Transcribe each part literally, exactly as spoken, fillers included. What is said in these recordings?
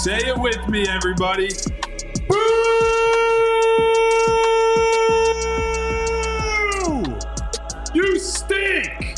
Say it with me, everybody. Boo! You stink!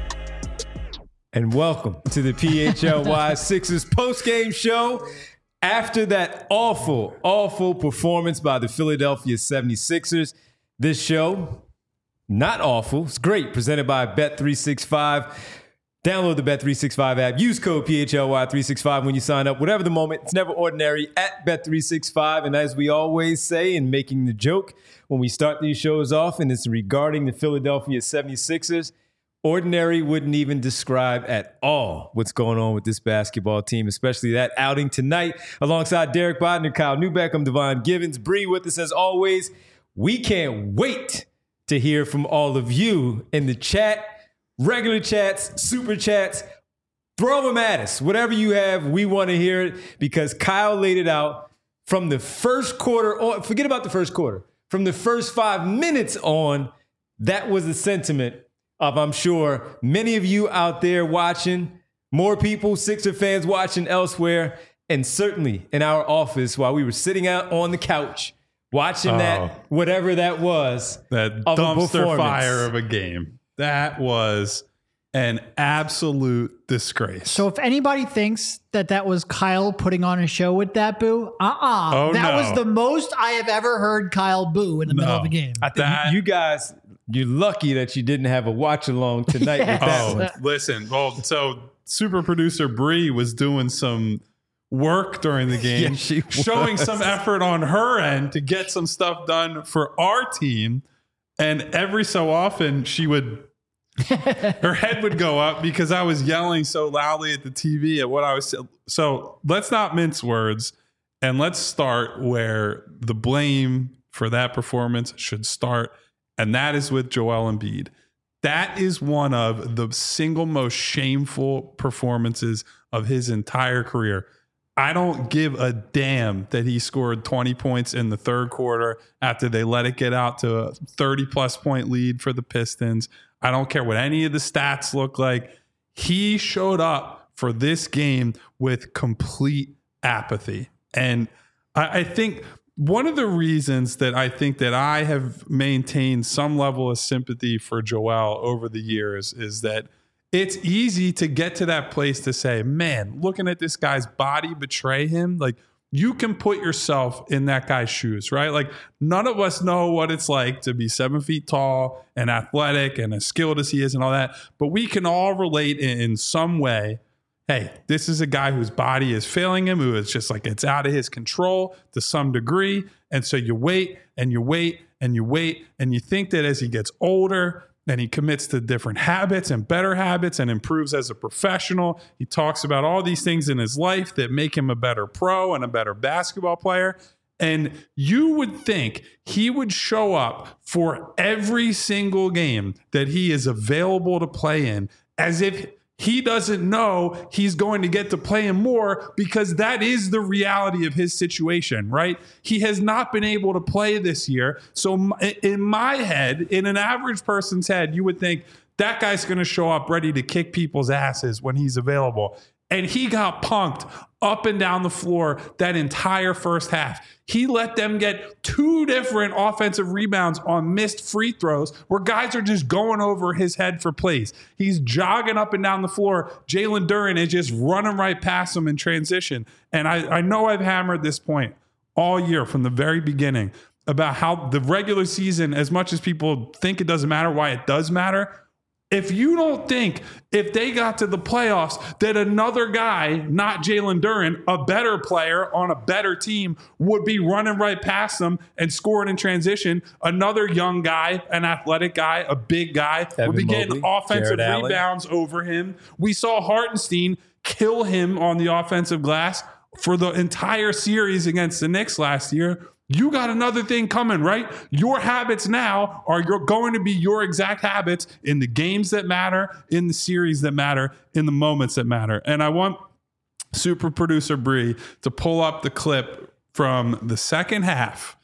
And welcome to the P H L Y Sixers postgame show. After that awful, awful performance by the Philadelphia seventy-sixers, this show, not awful, it's great, presented by Bet three sixty-five. Download the Bet three sixty-five app. Use code P H L Y three sixty-five when you sign up. Whatever the moment, it's never ordinary at Bet three sixty-five. And as we always say in making the joke when we start these shows off, and it's regarding the Philadelphia seventy-sixers, ordinary wouldn't even describe at all what's going on with this basketball team, especially that outing tonight. Alongside Derek Bodner, Kyle Newbeck, I'm Devon Givens. Bree with us as always. We can't wait to hear from all of you in the chat. Regular chats, super chats, throw them at us. Whatever you have, we want to hear it because Kyle laid it out from the first quarter on. Forget about the first quarter. From the first five minutes on, that was the sentiment of, I'm sure, many of you out there watching, more people, Sixer fans watching elsewhere, and certainly in our office while we were sitting out on the couch watching oh, that, whatever that was. That dumpster fire of a game. That was an absolute disgrace. So if anybody thinks that that was Kyle putting on a show with that boo, uh-uh. Oh, that no. was the most I have ever heard Kyle boo in the no. middle of a game. I think that, you guys, you're lucky that you didn't have a watch along tonight yes. with that oh, one. Listen, well, so super producer Bree was doing some work during the game, yeah, showing some effort on her end to get some stuff done for our team. And every so often she would, her head would go up because I was yelling so loudly at the T V at what I was. So let's not mince words and let's start where the blame for that performance should start. And that is with Joel Embiid. That is one of the single most shameful performances of his entire career. I don't give a damn that he scored twenty points in the third quarter after they let it get out to a thirty plus point lead for the Pistons. I don't care what any of the stats look like. He showed up for this game with complete apathy. And I, I think one of the reasons that I think that I have maintained some level of sympathy for Joel over the years is that it's easy to get to that place to say, man, looking at this guy's body betray him. Like, you can put yourself in that guy's shoes, right? Like, none of us know what it's like to be seven feet tall and athletic and as skilled as he is and all that. But we can all relate in, in some way. Hey, this is a guy whose body is failing him, who is just like, it's out of his control to some degree. And so you wait and you wait and you wait and you think that as he gets older, and he commits to different habits and better habits and improves as a professional. He talks about all these things in his life that make him a better pro and a better basketball player. And you would think he would show up for every single game that he is available to play in as if he doesn't know he's going to get to play him more, because that is the reality of his situation, right? He has not been able to play this year. So in my head, in an average person's head, you would think that guy's going to show up ready to kick people's asses when he's available. And he got punked up and down the floor that entire first half. He let them get two different offensive rebounds on missed free throws where guys are just going over his head for plays. He's jogging up and down the floor. Jalen Duren is just running right past him in transition. And I, I know I've hammered this point all year from the very beginning about how the regular season, as much as people think it doesn't matter, why it does matter. If you don't think if they got to the playoffs that another guy, not Jalen Duren, a better player on a better team, would be running right past them and scoring in transition, another young guy, an athletic guy, a big guy, Evan would be getting Mobley, offensive Jared rebounds Allen. Over him. We saw Hartenstein kill him on the offensive glass for the entire series against the Knicks last year. You got another thing coming, right? Your habits now are you're going to be your exact habits in the games that matter, in the series that matter, in the moments that matter. And I want super producer Bree to pull up the clip from the second half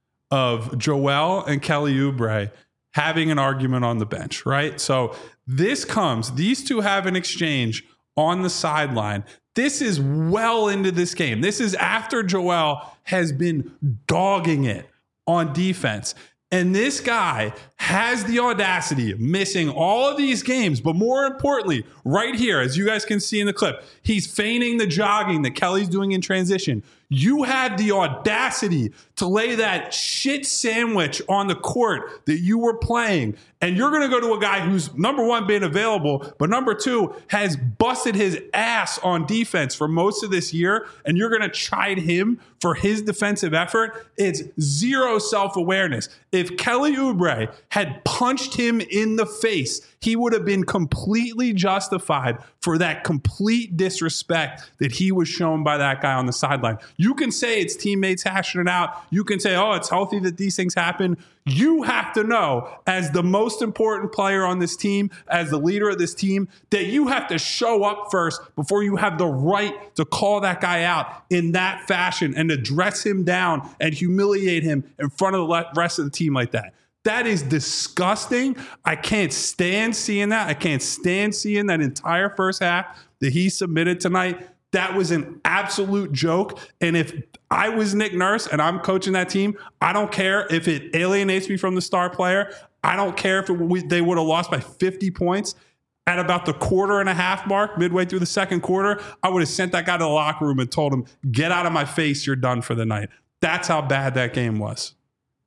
of Joel and Kelly Oubre having an argument on the bench, right? So this comes, these two have an exchange on the sideline. This is well into this game. This is after Joel has been dogging it on defense. And this guy has the audacity of missing all of these games. But more importantly, right here, as you guys can see in the clip, he's feigning the jogging that Kelly's doing in transition. You had the audacity to lay that shit sandwich on the court that you were playing. And you're going to go to a guy who's, number one, been available, but number two, has busted his ass on defense for most of this year. And you're going to chide him for his defensive effort. It's zero self-awareness. If Kelly Oubre had punched him in the face, he would have been completely justified for that complete disrespect that he was shown by that guy on the sideline. You can say it's teammates hashing it out. You can say, oh, it's healthy that these things happen. You have to know, as the most important player on this team, as the leader of this team, that you have to show up first before you have the right to call that guy out in that fashion and to dress him down and humiliate him in front of the rest of the team like that. That is disgusting. I can't stand seeing that. I can't stand seeing that entire first half that he submitted tonight. That was an absolute joke. And if I was Nick Nurse and I'm coaching that team, I don't care if it alienates me from the star player. I don't care if it, we, they would have lost by fifty points. At about the quarter and a half mark, midway through the second quarter, I would have sent that guy to the locker room and told him, get out of my face, you're done for the night. That's how bad that game was.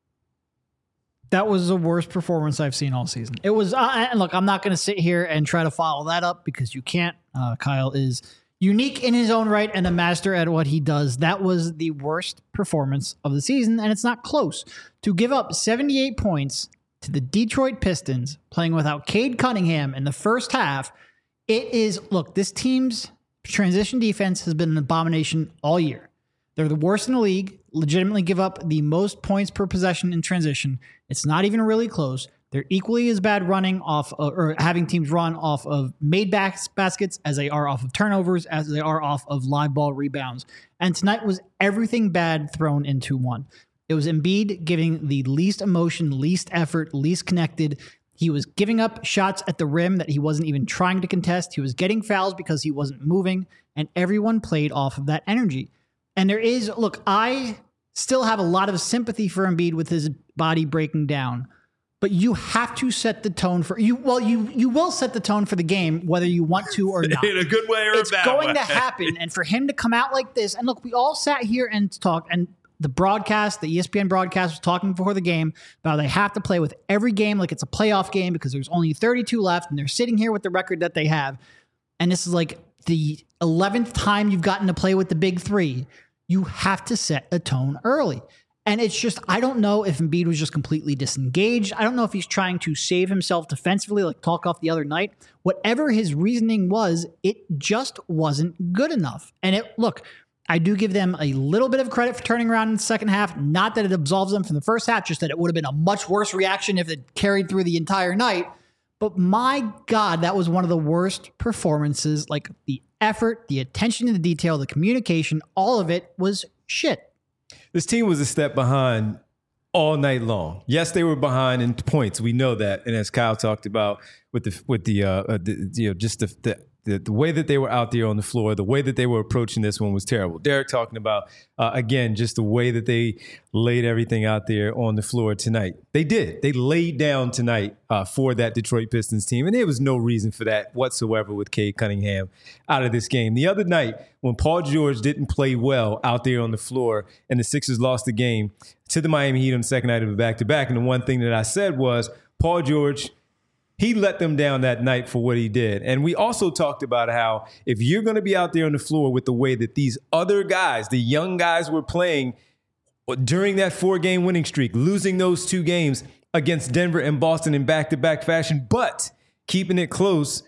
That was the worst performance I've seen all season. It was, uh, and look, I'm not going to sit here and try to follow that up because you can't. Uh, Kyle is unique in his own right and a master at what he does. That was the worst performance of the season, and it's not close. To give up seventy-eight points to the Detroit Pistons, playing without Cade Cunningham in the first half, it is, look, this team's transition defense has been an abomination all year. They're the worst in the league, legitimately give up the most points per possession in transition. It's not even really close. They're equally as bad running off of, or having teams run off of made bas- baskets as they are off of turnovers, as they are off of live ball rebounds. And tonight was everything bad thrown into one. It was Embiid giving the least emotion, least effort, least connected. He was giving up shots at the rim that he wasn't even trying to contest. He was getting fouls because he wasn't moving, and everyone played off of that energy. And there is, look, I still have a lot of sympathy for Embiid with his body breaking down, but you have to set the tone for you. Well, you you will set the tone for the game, whether you want to or not. In a good way or it's a bad going way. to happen. And for him to come out like this, and look, we all sat here and talked, and the broadcast, the E S P N broadcast was talking before the game about how they have to play with every game like it's a playoff game because there's only thirty-two left, and they're sitting here with the record that they have. And this is like the eleventh time you've gotten to play with the big three. You have to set a tone early. And it's just, I don't know if Embiid was just completely disengaged. I don't know if he's trying to save himself defensively, like talk off the other night. Whatever his reasoning was, it just wasn't good enough. And it, look, I do give them a little bit of credit for turning around in the second half. Not that it absolves them from the first half, just that it would have been a much worse reaction if it carried through the entire night. But my God, that was one of the worst performances. Like the effort, the attention to the detail, the communication, all of it was shit. This team was a step behind all night long. Yes, they were behind in points. We know that. And as Kyle talked about with the with the, uh, uh, the you know just the, the the the way that they were out there on the floor, the way that they were approaching this one was terrible. Derek talking about uh, again just the way that they laid everything out there on the floor tonight. They did. They laid down tonight uh, for that Detroit Pistons team, and there was no reason for that whatsoever with Cade Cunningham out of this game. The other night when Paul George didn't play well out there on the floor and the Sixers lost the game to the Miami Heat on the second night of a back-to-back, and the one thing that I said was Paul George, he let them down that night for what he did. And we also talked about how if you're going to be out there on the floor with the way that these other guys, the young guys were playing during that four-game winning streak, losing those two games against Denver and Boston in back-to-back fashion, but keeping it close,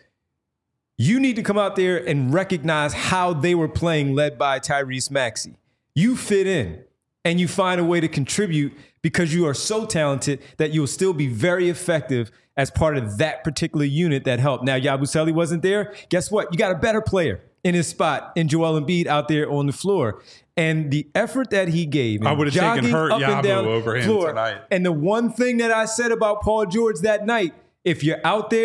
you need to come out there and recognize how they were playing led by Tyrese Maxey. You fit in and you find a way to contribute because you are so talented that you'll still be very effective as part of that particular unit that helped. Now, Yabusele wasn't there. Guess what? You got a better player in his spot in Joel Embiid out there on the floor. And the effort that he gave, I would have taken Hurt Yabu over him floor, tonight. And the one thing that I said about Paul George that night, if you're out there,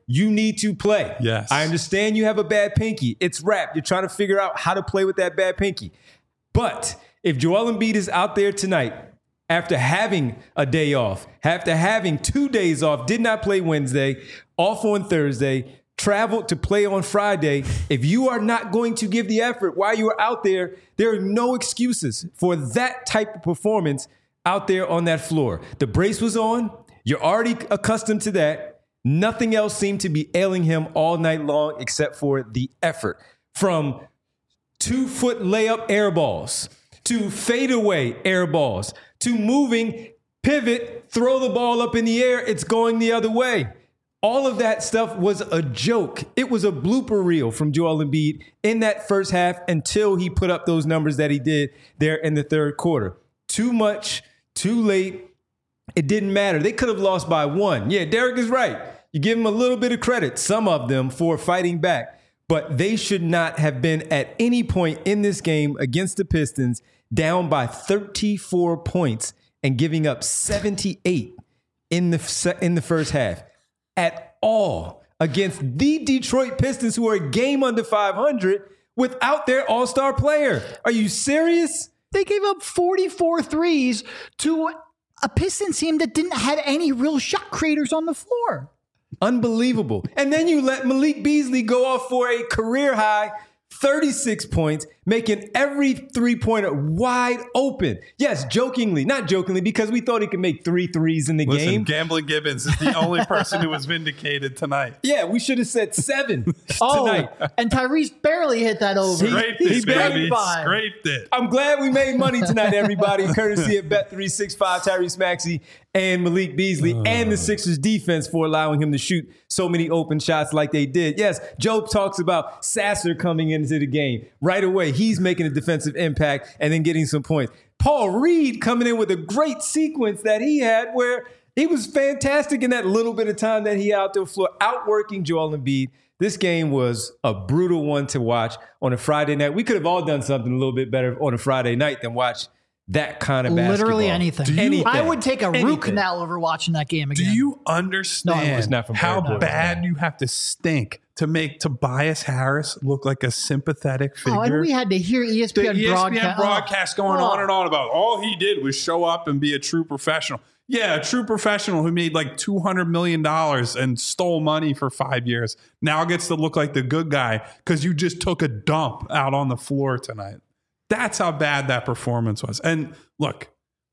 You need to play. Yes. I understand you have a bad pinky. It's wrapped. You're trying to figure out how to play with that bad pinky. But if Joel Embiid is out there tonight, after having a day off, after having two days off, did not play Wednesday, off on Thursday, traveled to play on Friday, if you are not going to give the effort while you are out there, there are no excuses for that type of performance out there on that floor. The brace was on. You're already accustomed to that. Nothing else seemed to be ailing him all night long except for the effort. From two-foot layup air balls to fadeaway air balls to moving, pivot, throw the ball up in the air, it's going the other way. All of that stuff was a joke. It was a blooper reel from Joel Embiid in that first half until he put up those numbers that he did there in the third quarter. Too much, too late. It didn't matter. They could have lost by one. Yeah, Derek is right. You give them a little bit of credit, some of them, for fighting back. But they should not have been at any point in this game against the Pistons down by thirty-four points and giving up seventy-eight in the, in the first half. At all against the Detroit Pistons, who are a game under five hundred without their all-star player. Are you serious? They gave up forty-four threes to a Pistons team that didn't have any real shot creators on the floor. Unbelievable. And then you let Malik Beasley go off for a career high thirty-six points, making every three-pointer wide open. Yes, jokingly, not jokingly, because we thought he could make three threes in the Listen, game. Gambling Gibbons is the only person who was vindicated tonight. Yeah, we should have said seven Oh, tonight. and Tyrese barely hit that over. Scraped he it, barely baby. by. Scraped it. I'm glad we made money tonight, everybody, courtesy of Bet three sixty-five, Tyrese Maxey and Malik Beasley, uh. and the Sixers defense for allowing him to shoot so many open shots like they did. Yes, Joe talks about Sasser coming into the game. Right away, he's making a defensive impact and then getting some points. Paul Reed coming in with a great sequence that he had where he was fantastic in that little bit of time that he out there floor, outworking Joel Embiid. This game was a brutal one to watch on a Friday night. We could have all done something a little bit better on a Friday night than watch that kind of basketball. Literally anything. Do you- anything. I would take a Anything. root canal over watching that game Do again. you understand it's not from how Barry Bonds, bad you have to stink to make Tobias Harris look like a sympathetic figure? Oh, and we had to hear E S P N, the E S P N broadcast, broadcast going oh. on and on about all he did was show up and be a true professional. Yeah, a true professional who made like two hundred million dollars and stole money for five years now gets to look like the good guy because you just took a dump out on the floor tonight. That's how bad that performance was. And look,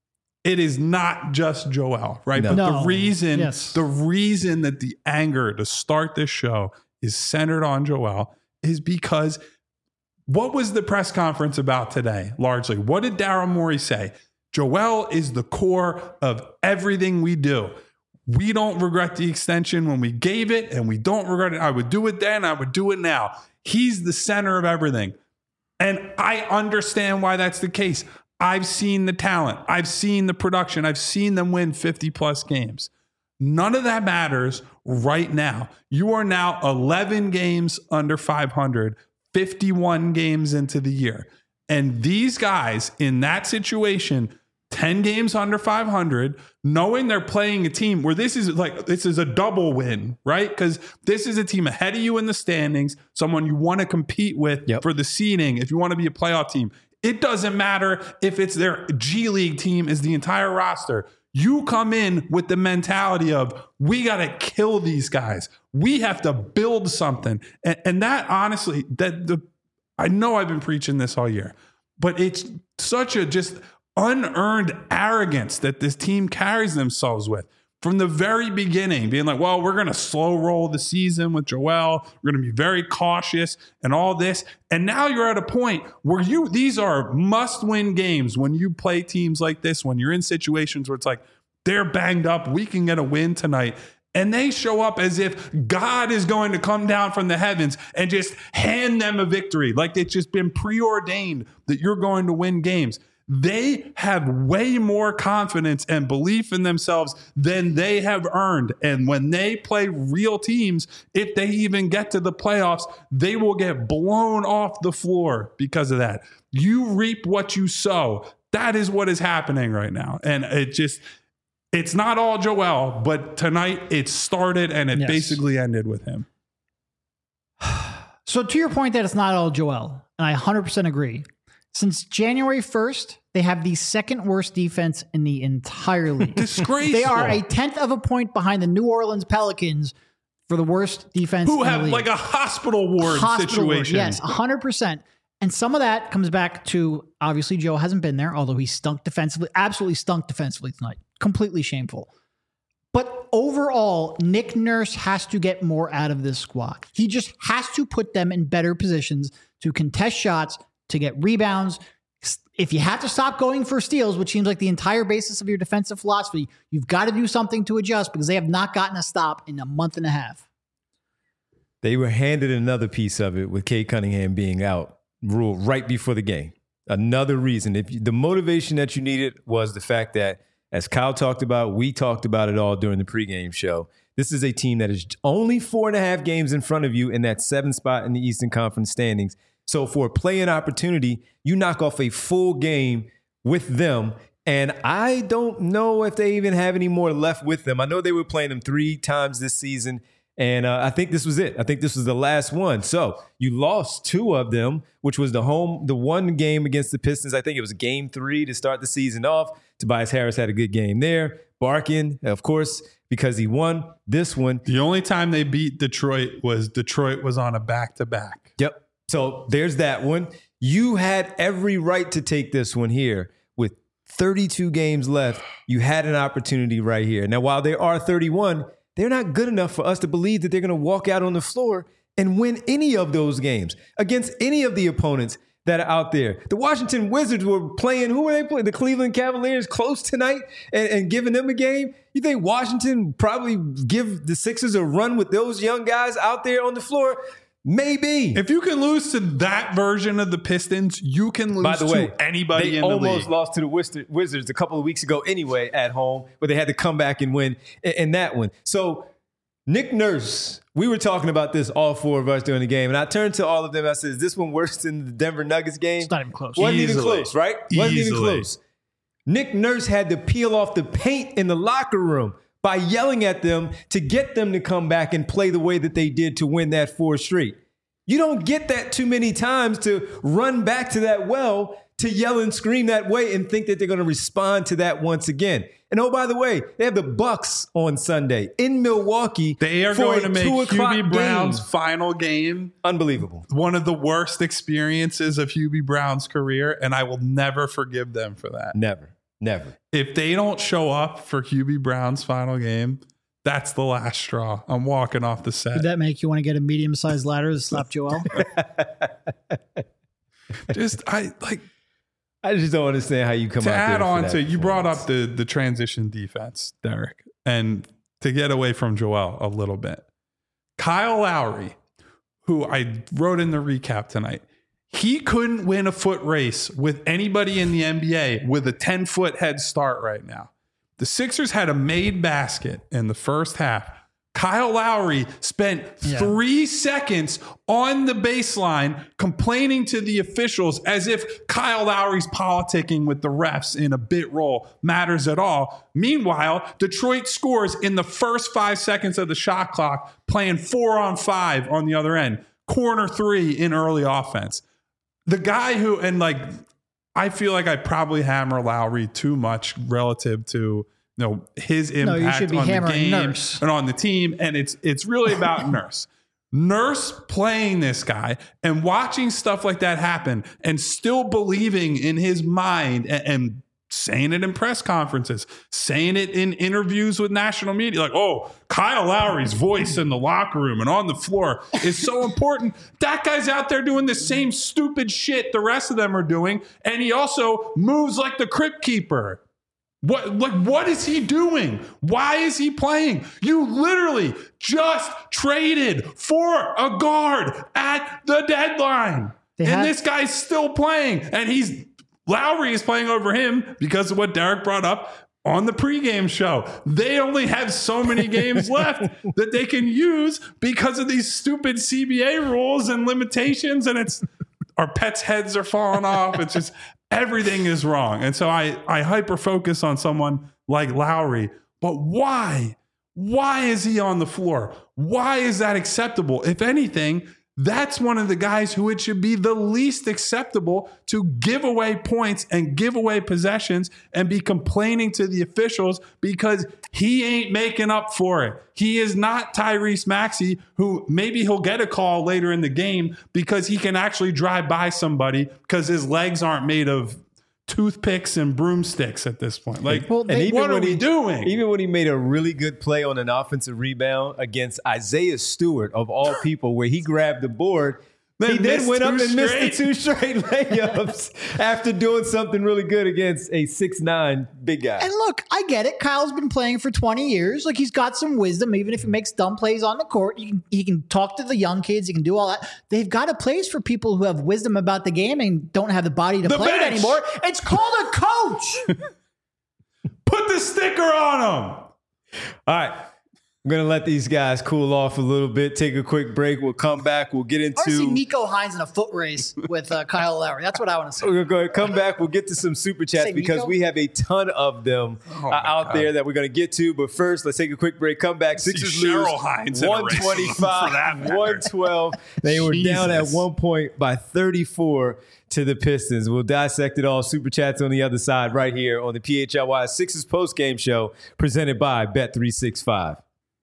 it is not just Joel, right? No. But No. the reason, Yes. the reason that the anger to start this show is centered on Joel is because what was the press conference about today? Largely, what did Daryl Morey say? Joel is the core of everything we do. We don't regret the extension when we gave it, and we don't regret it. I would do it then. I would do it now. He's the center of everything. And I understand why that's the case. I've seen the talent. I've seen the production. I've seen them win fifty plus games. None of that matters right now. You are now eleven games under five hundred, fifty-one games into the year. And these guys in that situation, ten games under five hundred, knowing they're playing a team where this is like, this is a double win, right? Because this is a team ahead of you in the standings, someone you want to compete with Yep. for the seeding if you want to be a playoff team. It doesn't matter if it's their G League team is the entire roster. You come in with the mentality of, we got to kill these guys. We have to build something. And, and that honestly, that the I know I've been preaching this all year, but it's such a just unearned arrogance that this team carries themselves with from the very beginning, being like, well, we're going to slow roll the season with Joel. We're going to be very cautious and all this. And now you're at a point where you, these are must win games when you play teams like this, when you're in situations where it's like, they're banged up. We can get a win tonight. And they show up as if God is going to come down from the heavens and just hand them a victory. Like it's just been preordained that you're going to win games. They have way more confidence and belief in themselves than they have earned. And when they play real teams, if they even get to the playoffs, they will get blown off the floor because of that. You reap what you sow. That is what is happening right now. And it just... it's not all Joel, but tonight it started and it Yes. basically ended with him. So to your point that it's not all Joel, and I one hundred percent agree. Since January first, they have the second worst defense in the entire league. Disgraceful. They are a tenth of a point behind the New Orleans Pelicans for the worst defense Who in have the league. like a hospital ward Hospital ward, situation. yes, one hundred percent. And some of that comes back to, obviously, Joe hasn't been there, although he stunk defensively, absolutely stunk defensively tonight. Completely shameful. But overall, Nick Nurse has to get more out of this squad. He just has to put them in better positions to contest shots, to get rebounds. If you have to stop going for steals, which seems like the entire basis of your defensive philosophy, you've got to do something to adjust because they have not gotten a stop in a month and a half. They were handed another piece of it with Cade Cunningham being out, rule right before the game. Another reason. If you, the motivation that you needed was the fact that, as Kyle talked about, we talked about it all during the pregame show. This is a team that is only four and a half games in front of you in that seventh spot in the Eastern Conference standings. So for a play-in opportunity, you knock off a full game with them. And I don't know if they even have any more left with them. I know they were playing them three times this season. And uh, I think this was it. I think this was the last one. So you lost two of them, which was the home, the one game against the Pistons. I think it was game three to start the season off. Tobias Harris had a good game there. Barkin, of course, because he won this one. The only time they beat Detroit was Detroit was on a back-to-back. Yep. So there's that one. You had every right to take this one here with thirty-two games left. You had an opportunity right here. Now, while there are thirty-one, they're not good enough for us to believe that they're going to walk out on the floor and win any of those games against any of the opponents that are out there. The Washington Wizards were playing, who were they playing? The Cleveland Cavaliers close tonight and, and giving them a game. You think Washington probably give the Sixers a run with those young guys out there on the floor? Maybe. If you can lose to that version of the Pistons, you can lose By the way, to anybody they in the almost league. lost to the Wiz- Wizards a couple of weeks ago anyway at home, but they had to come back and win in, in that one. So Nick Nurse, we were talking about this, all four of us during the game, and I turned to all of them. I said, is this one worse than the Denver Nuggets game? It's not even close. Wasn't Easily. even close, right? Wasn't even Easily. close. Nick Nurse had to peel off the paint in the locker room by yelling at them to get them to come back and play the way that they did to win that four straight. You don't get that too many times to run back to that well, to yell and scream that way and think that they're going to respond to that once again. And oh, by the way, they have the Bucks on Sunday in Milwaukee. They are for going a to make two o'clock Hubie Brown's game. final game Unbelievable. one of the worst experiences of Hubie Brown's career, and I will never forgive them for that. Never, never. If they don't show up for Hubie Brown's final game, that's the last straw. I'm walking off the set. Did that make you want to get a medium-sized ladder to slap Joel? Just I like I just don't understand how you come to out there add for on that to you brought performance. up the the transition defense, Derek, and to get away from Joel a little bit. Kyle Lowry, who I wrote in the recap tonight, he couldn't win a foot race with anybody in the N B A with a ten foot head start right now. The Sixers had a made basket in the first half. Kyle Lowry spent Yeah. three seconds on the baseline complaining to the officials as if Kyle Lowry's politicking with the refs in a bit roll matters at all. Meanwhile, Detroit scores in the first five seconds of the shot clock, playing four on five on the other end. Corner three in early offense. The guy who, and like, I feel like I probably hammer Lowry too much relative to you know his impact you should be on the hammering game Nurse. and on the team, and it's it's really about Nurse. Nurse playing this guy and watching stuff like that happen and still believing in his mind and, and saying it in press conferences, saying it in interviews with national media, like, oh, Kyle Lowry's voice in the locker room and on the floor is so important. That guy's out there doing the same stupid shit the rest of them are doing, and he also moves like the crypt keeper. What like what is he doing? Why is he playing? You literally just traded for a guard at the deadline. They and had- this guy's still playing. And he's Lowry is playing over him because of what Derek brought up on the pregame show. They only have so many games left that they can use because of these stupid C B A rules and limitations. And it's our pets' heads are falling off. It's just everything is wrong. And so I, I hyper focus on someone like Lowry But why? Why is he on the floor? Why is that acceptable? If anything, that's one of the guys who it should be the least acceptable to give away points and give away possessions and be complaining to the officials because he ain't making up for it. He is not Tyrese Maxey, who maybe he'll get a call later in the game because he can actually drive by somebody because his legs aren't made of toothpicks and broomsticks at this point. Like, Well, and they- what are when we he, doing? Even when he made a really good play on an offensive rebound against Isaiah Stewart, of all people, where he grabbed the board, Then he then missed went up two and missed the straight. two straight layups after doing something really good against a six nine big guy. And look, I get it. Kyle's been playing for twenty years. Like, he's got some wisdom. Even if he makes dumb plays on the court, he can, he can talk to the young kids. He can do all that. They've got a place for people who have wisdom about the game and don't have the body to The play it bench. anymore. It's called a coach. Put the sticker on him. All right. I'm going to let these guys cool off a little bit, take a quick break. We'll come back. We'll get I want to see into. Nico Hines in a foot race with uh, Kyle Lowry. That's what I want to see. We're going to come back. We'll get to some super chats Say because Nico? we have a ton of them Oh uh, my out God. there that we're going to get to. But first, let's take a quick break. Come back. Sixers See lose Cheryl Hines in a race for that one twenty-five, matter. one twelve. They were down at Jesus. one point by thirty-four to the Pistons. We'll dissect it all. Super chats on the other side right here on the P H L Y Sixers post-game show presented by Bet three sixty-five.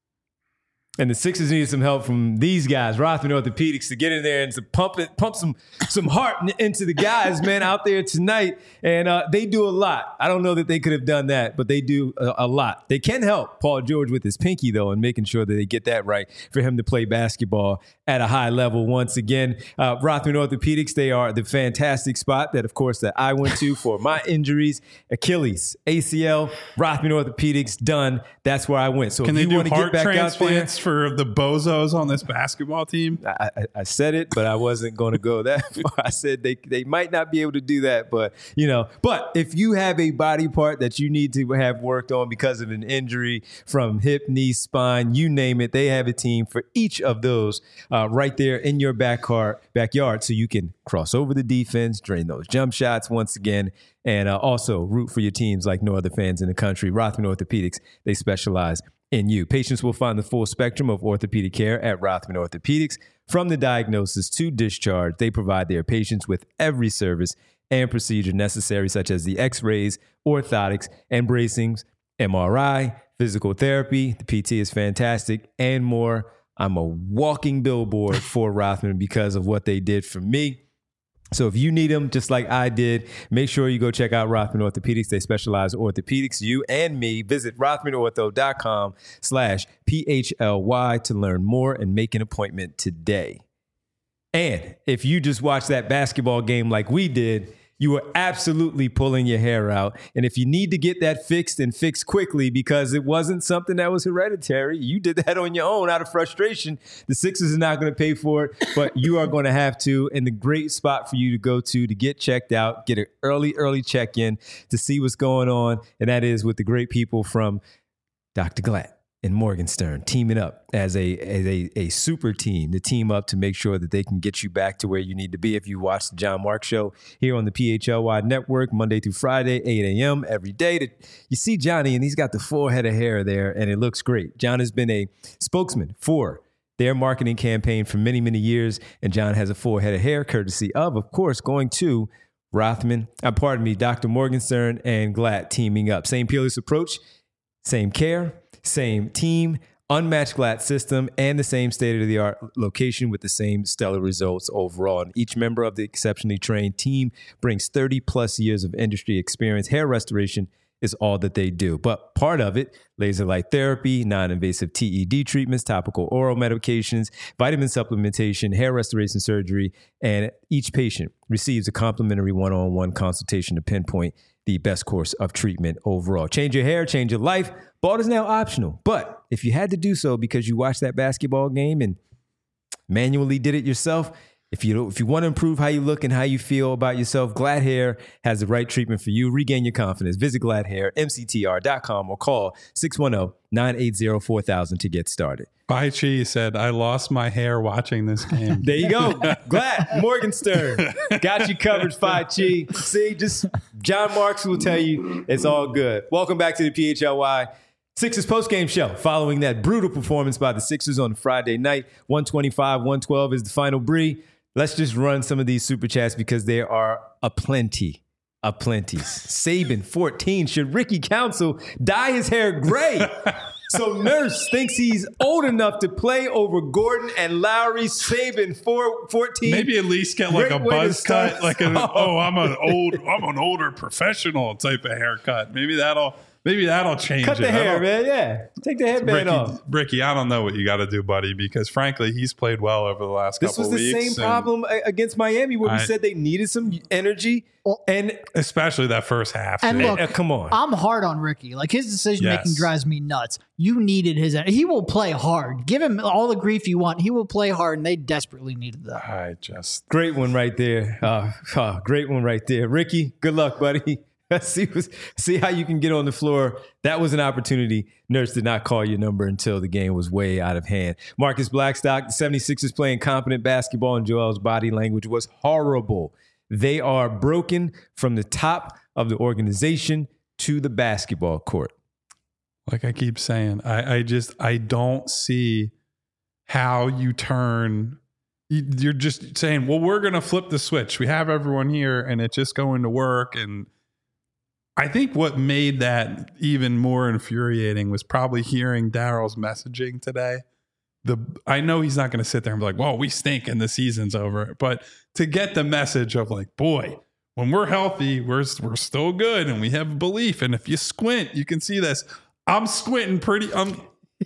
And the Sixers need some help from these guys, Rothman Orthopedics, to get in there and to pump it, pump some some heart in- into the guys, man, out there tonight. And uh, they do a lot. I don't know that they could have done that, but they do a, a lot. They can help Paul George with his pinky, though, and making sure that they get that right for him to play basketball at a high level once again. Uh, Rothman Orthopedics, they are the fantastic spot that, of course, that I went to for my injuries, Achilles, A C L, Rothman Orthopedics, done. That's where I went. So Can if they you do want to get heart back out there, transplants for the bozos on this basketball team? I, I, I said it, but I wasn't going to go that far. I said they they might not be able to do that, but you know. But if you have a body part that you need to have worked on because of an injury from hip, knee, spine, you name it, they have a team for each of those uh, right there in your back car, backyard, so you can cross over the defense, drain those jump shots once again, and uh, also root for your teams like no other fans in the country. Rothman Orthopedics, they specialize in you. Patients will find the full spectrum of orthopedic care at Rothman Orthopedics. From the diagnosis to discharge, they provide their patients with every service and procedure necessary, such as the x-rays, orthotics, and bracings, M R I, physical therapy. The P T is fantastic, and more. I'm a walking billboard for Rothman because of what they did for me. So if you need them, just like I did, make sure you go check out Rothman Orthopedics. They specialize in orthopedics, you and me. Visit rothmanortho.com slash P-H-L-Y to learn more and make an appointment today. And if you just watched that basketball game like we did, you were absolutely pulling your hair out. And if you need to get that fixed and fixed quickly because it wasn't something that was hereditary, you did that on your own out of frustration. The Sixers are not going to pay for it, but you are going to have to. And the great spot for you to go to to get checked out, get an early, early check-in to see what's going on. And that is with the great people from Doctor Glatt and Morgenstern teaming up as a, as a a super team to team up to make sure that they can get you back to where you need to be. If you watch the John Mark Show here on the P H L Y Network, Monday through Friday, eight a.m. every day, to, you see Johnny, and he's got the full head of hair there, and it looks great. John has been a spokesman for their marketing campaign for many, many years, and John has a full head of hair, courtesy of, of course, going to Rothman, uh, pardon me, Doctor Morgenstern and Glatt teaming up. Same peerless approach, same care, same team, unmatched Glatt system, and the same state-of-the-art location with the same stellar results overall. And each member of the exceptionally trained team brings thirty plus years of industry experience. Hair restoration is all that they do. But part of it, laser light therapy, non-invasive T E D treatments, topical oral medications, vitamin supplementation, hair restoration surgery, and each patient receives a complimentary one-on-one consultation to pinpoint the best course of treatment overall. Change your hair, change your life. Bald is now optional. But if you had to do so because you watched that basketball game and manually did it yourself, if you if you want to improve how you look and how you feel about yourself, Glatt Hair has the right treatment for you. Regain your confidence. Visit Glatt Hair, M C T R dot com or call six one zero, nine eight zero, four thousand to get started. Bai Chi said, I lost my hair watching this game. There you go. Glatt, Morgenstern. Got you covered, Phi Chi. See, just John Marks will tell you it's all good. Welcome back to the P H L Y Sixers postgame show following that brutal performance by the Sixers on Friday night. one twenty-five one twelve is the final. Bree, let's just run some of these super chats because there are a plenty, a plenty. Saban, fourteen. Should Ricky Council dye his hair gray? So Nurse thinks he's old enough to play over Gordon and Lowry. Saban, four, fourteen. Maybe at least get like Great a way to buzz start. cut, like a, oh, I'm an old, I'm an older professional type of haircut. Maybe that'll, maybe that'll change Cut it. the I hair, don't- man. Yeah. Take the headband Ricky, off. Ricky, I don't know what you got to do, buddy, because frankly, he's played well over the last This couple was the weeks. same and problem a- against Miami where we I- said they needed some energy. Well, And especially that first half. And too. look, uh, come on. I'm hard on Ricky. Like his decision making Yes. drives me nuts. You needed his. He will play hard. Give him all the grief you want. He will play hard, and they desperately needed that. I just Great one right there. Uh, uh, great one right there. Ricky, good luck, buddy. see, see how you can get on the floor. That was an opportunity. Nurse did not call your number until the game was way out of hand. Marcus Blackstock, the seventy-sixers playing competent basketball, and Joel's body language was horrible. They are broken from the top of the organization to the basketball court. like I keep saying, I, I just I don't see how you turn. you- You're just saying, well, we're going to flip the switch. We have everyone here, and it's just going to work. And I think what made that even more infuriating was probably hearing Daryl's messaging today. The I know he's not going to sit there and be like, well, we stink and the season's over. But to get the message of like, boy, when we're healthy, we're, we're still good and we have belief. And if you squint, you can see this. I'm squinting pretty. Um,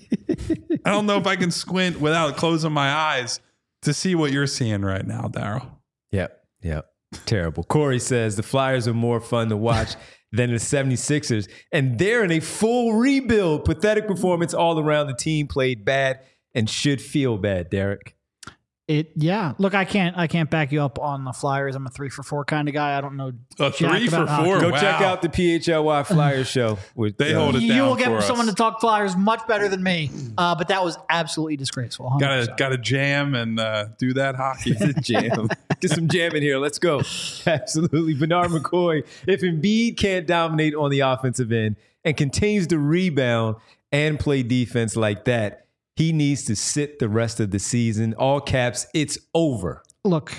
I don't know if I can squint without closing my eyes to see what you're seeing right now, Daryl. Yep, yep. Terrible. Corey says the Flyers are more fun to watch than the seventy-sixers, and they're in a full rebuild. Pathetic performance all around. The team played bad and should feel bad, Derek. It yeah. Look, I can't I can't back you up on the Flyers. I'm a three for four kind of guy. I don't know. A jack three for about hockey. four. Go Wow. check out the P H L Y Flyers show. With, They uh, hold it You down will get for someone us. to talk Flyers much better than me. Uh, but that was absolutely disgraceful. one hundred Gotta percent. gotta jam and uh, do that hockey. jam. Get some jam in here. Let's go. Absolutely. Bernard McCoy, if Embiid can't dominate on the offensive end and continues to rebound and play defense like that, he needs to sit the rest of the season. All caps, it's over. Look,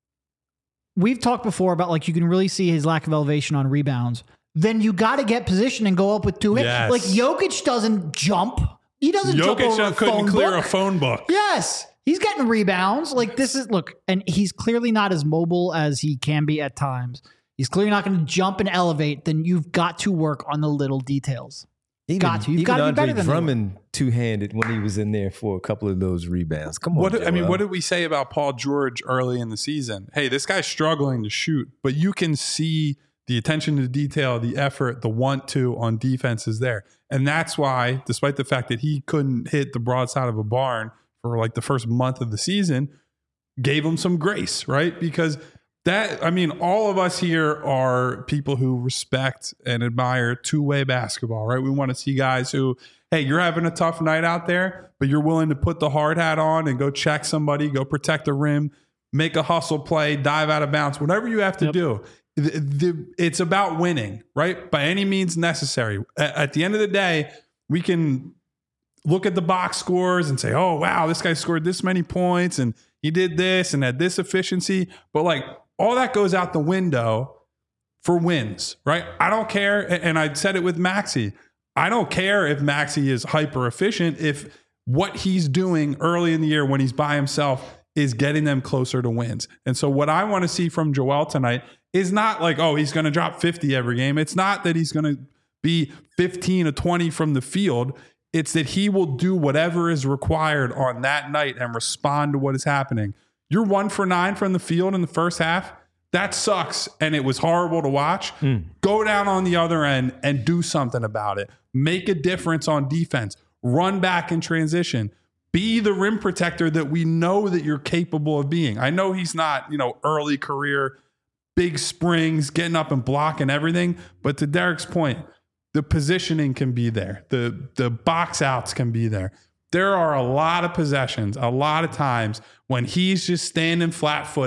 we've talked before about like you can really see his lack of elevation on rebounds. Then you got to get position and go up with two hits. Yes. Like Jokic doesn't jump. He doesn't jump over a Jokic couldn't phone clear book. a phone book. Yes. He's getting rebounds. Like this is look, and he's clearly not as mobile as he can be at times. He's clearly not going to jump and elevate. Then you've got to work on the little details. Even, Got to. You've even got to be Andre better than they were. Drummond two-handed when he was in there for a couple of those rebounds. Come on, What I mean, Joel. what did we say about Paul George early in the season? Hey, this guy's struggling to shoot, but you can see the attention to detail, the effort, the want to on defense is there. And that's why, despite the fact that he couldn't hit the broadside of a barn for like the first month of the season, gave him some grace, right? Because that, I mean, all of us here are people who respect and admire two-way basketball, right? We want to see guys who, hey, you're having a tough night out there, but you're willing to put the hard hat on and go check somebody, go protect the rim, make a hustle play, dive out of bounds, whatever you have to Yep. do. The- the- it's about winning, right? By any means necessary. A- At the end of the day, we can look at the box scores and say, oh, wow, this guy scored this many points and he did this and had this efficiency. But like all that goes out the window for wins, right? I don't care. a- And I said it with Maxey. I don't care if Maxey is hyper efficient if what he's doing early in the year when he's by himself is getting them closer to wins. And so what I want to see from Joel tonight is not like, oh, he's going to drop fifty every game. It's not that he's going to be fifteen or twenty from the field. It's that he will do whatever is required on that night and respond to what is happening. You're one for nine from the field in the first half. That sucks. And it was horrible to watch. Mm. Go down on the other end and do something about it. Make a difference on defense. Run back in transition. Be the rim protector that we know that you're capable of being. I know he's not, you know, early career, big springs, getting up and blocking everything. But to Derek's point, the positioning can be there. The, the box outs can be there. There are a lot of possessions, a lot of times when he's just standing flat footed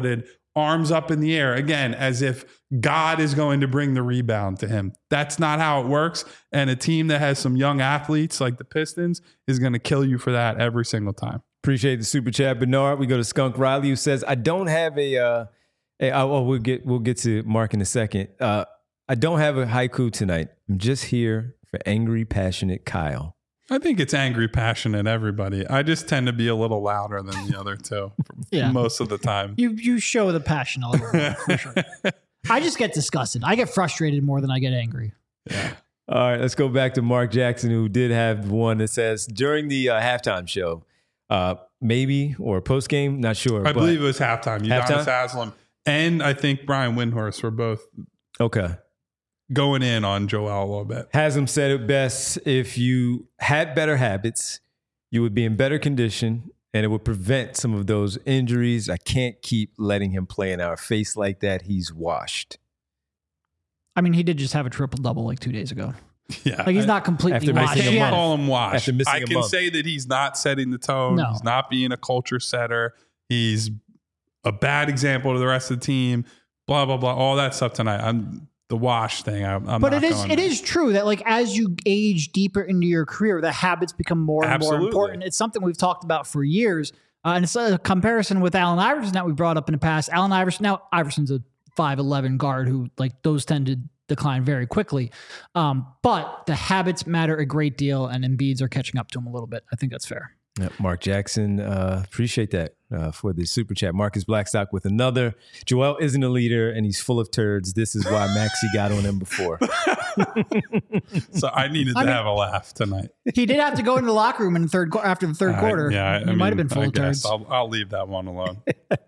arms up in the air again, as if God is going to bring the rebound to him. That's not how it works. And a team that has some young athletes like the Pistons is going to kill you for that every single time. Appreciate the super chat, Bernard. We go to Skunk Riley, who says, "I don't have a." Uh, a oh, we'll get we'll get to Mark in a second. Uh, I don't have a haiku tonight. I'm just here for angry, passionate Kyle. I think it's angry, passionate, everybody. I just tend to be a little louder than the other two Yeah. most of the time. You you show the passion a little bit, for sure. I just get disgusted. I get frustrated more than I get angry. Yeah. All right, let's go back to Mark Jackson, who did have one that says, during the uh, halftime show, uh, maybe, or post-game, not sure. I but, believe it was halftime. Udonis Halftime? Haslam and I think Brian Windhorst were both Okay. going in on Joel a little bit. Haslam said it best: if you had better habits, you would be in better condition, and it would prevent some of those injuries. I can't keep letting him play in our face like that. He's washed. I mean, he did just have a triple double like two days ago. Yeah. Like he's not completely After washed. missing a I He can't had- call him washed. After missing I a can month. say that he's not setting the tone. No. He's not being a culture setter. He's a bad example to the rest of the team. Blah, blah, blah. All that stuff tonight. I'm the wash thing. I, I'm But not it is going it there. is true that like as you age deeper into your career, the habits become more and Absolutely. more important. It's something we've talked about for years, uh, and it's a comparison with Allen Iverson that we brought up in the past. Allen Iverson, now Iverson's a five eleven guard who like those tend to decline very quickly, um, but the habits matter a great deal, and Embiid's are catching up to him a little bit. I think that's fair. Yeah, Mark Jackson, uh, appreciate that uh, for the super chat. Marcus Blackstock with another. Joel isn't a leader, and he's full of turds. This is why Maxey got on him before. So I needed to I mean- have a laugh tonight. He did have to go into the locker room in the third qu- after the third I- quarter. yeah, I, he I might mean, have been full I of guess turds. I'll, I'll leave that one alone.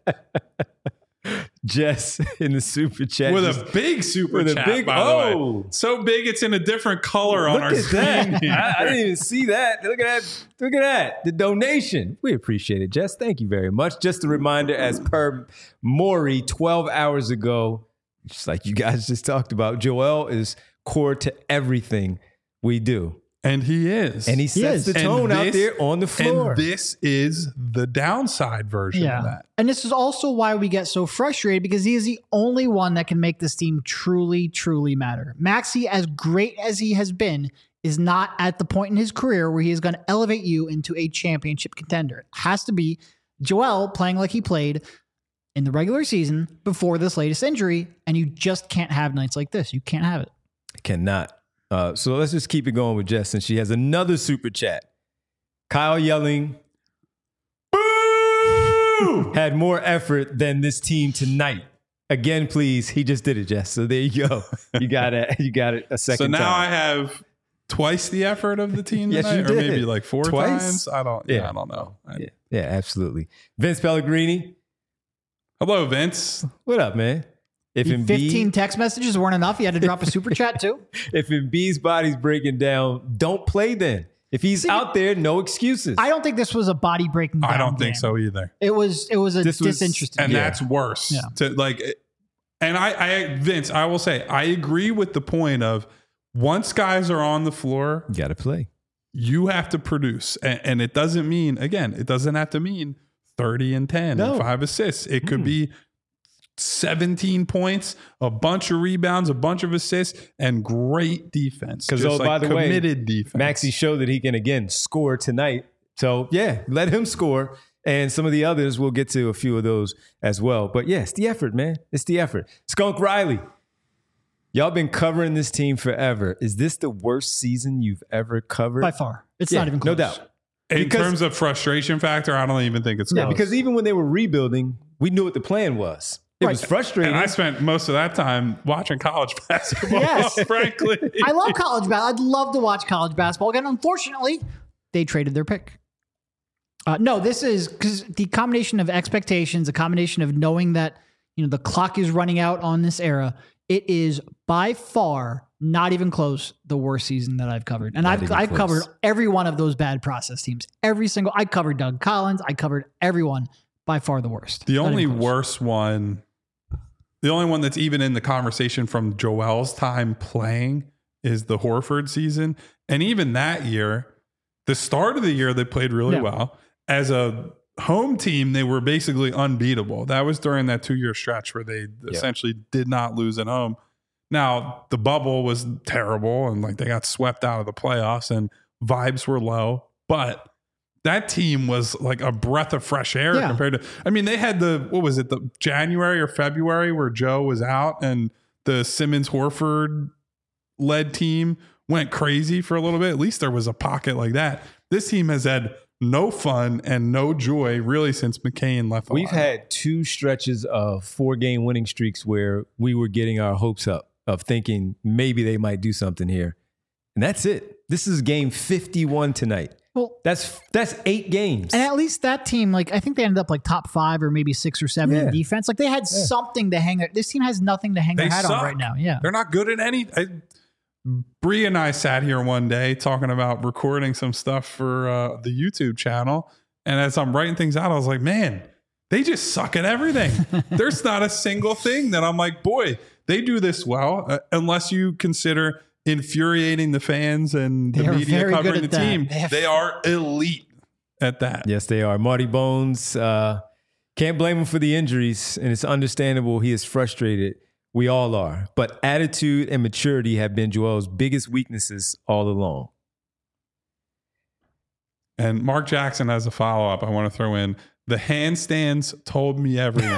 Jess in the super chat. With just- a big super with a chat, big- by the way. oh. So big it's in a different color on Look our at screen. that. here. I, I didn't even see that. Look at that. Look at that. The donation. We appreciate it, Jess. Thank you very much. Just a reminder, as per Maury twelve hours ago, just like you guys just talked about, Joel is core to everything we do. And he is. And he is. sets the And tone out this- there on the floor. And this is the downside version of that. And this is also why we get so frustrated, because he is the only one that can make this team truly, truly matter. Maxey, as great as he has been, is not at the point in his career where he is going to elevate you into a championship contender. It has to be Joel playing like he played in the regular season before this latest injury, and you just can't have nights like this. You can't have it. Cannot. Uh, so let's just keep it going with Jess, and she has another super chat. Kyle yelling, "Boo!" had more effort than this team tonight. Again, please. He just did it, Jess. So there you go. You got it. You got it a So second now time. I have twice the effort of the team Yes, tonight, you or did. maybe like four Twice? times. I don't. Yeah, Yeah. I don't know. I- yeah, yeah, absolutely. Vince Pellegrini, Hello, Vince. what up, man? If The Embiid, fifteen text messages weren't enough. You had to drop a super chat too. if Embiid's body's breaking down, don't play then. If he's See, out there, no excuses. I don't think this was a body breaking down I don't think game. so either. It was it was a This was- disinterested And game. that's worse. Yeah. To like, and I, I, Vince, I will say, I agree with the point of once guys are on the floor, you got to play. you have to produce, and, and it doesn't mean again, it doesn't have to mean thirty and ten No. and five assists. It could Mm. be seventeen points, a bunch of rebounds, a bunch of assists, and great defense. 'Cause, Just oh, by the way, committed defense. Maxey showed that he can again score tonight. So yeah, let him score. And some of the others, we'll get to a few of those as well. But yeah, it's the effort, man. It's the effort. Skunk Riley, y'all been covering this team forever. Is this the worst season you've ever covered? by far. It's Yeah, not even no close. doubt. in because- terms of frustration factor, I don't even think it's Yeah, close. because even when they were rebuilding, we knew what the plan was. It was frustrating. And I spent most of that time watching college basketball, Yes. frankly. I love college basketball. I'd love to watch college basketball again. Unfortunately, they traded their pick. Uh, no, this is because the combination of expectations, a combination of knowing that you know the clock is running out on this era. It is by far not even close the worst season that I've covered, and Not I've even I've close. covered every one of those bad process teams. Every single I covered Doug Collins. I covered everyone. By far the worst. The Not only even close. worst one, the only one that's even in the conversation from Joel's time playing is the Horford season. And even that year, the start of the year, they played really Yeah. well. As a home team, they were basically unbeatable. That was during that two-year stretch where they Yeah. essentially did not lose at home. Now, the bubble was terrible, and like they got swept out of the playoffs, and vibes were low. But that team was like a breath of fresh air Yeah. compared to. I mean, they had the what was it, the January or February where Joe was out, and the Simmons Horford led team went crazy for a little bit. At least there was a pocket like that. This team has had no fun and no joy really since McCain left. the We've line. had two stretches of four game winning streaks where we were getting our hopes up of thinking maybe they might do something here. And that's it. This is game fifty-one tonight. Well, That's that's eight games. and at least that team, like I think they ended up like top five or maybe six or seven Yeah. in defense. Like they had something to hang. Their, this team has nothing to hang They their hat suck. on right now. Yeah, They're not good at any. I, Bree and I sat here one day talking about recording some stuff for uh, the YouTube channel. And as I'm writing things out, I was like, man, they just suck at everything. There's not a single thing that I'm like, boy, they do this well, uh, unless you consider infuriating the fans and the They are media very good covering the at that. team. They have- They are elite at that. Yes, they are. Marty Bones, uh, can't blame him for the injuries, and it's understandable he is frustrated. We all are. But attitude and maturity have been Joel's biggest weaknesses all along. And Mark Jackson has a follow-up I want to throw in. The handstands told me everything.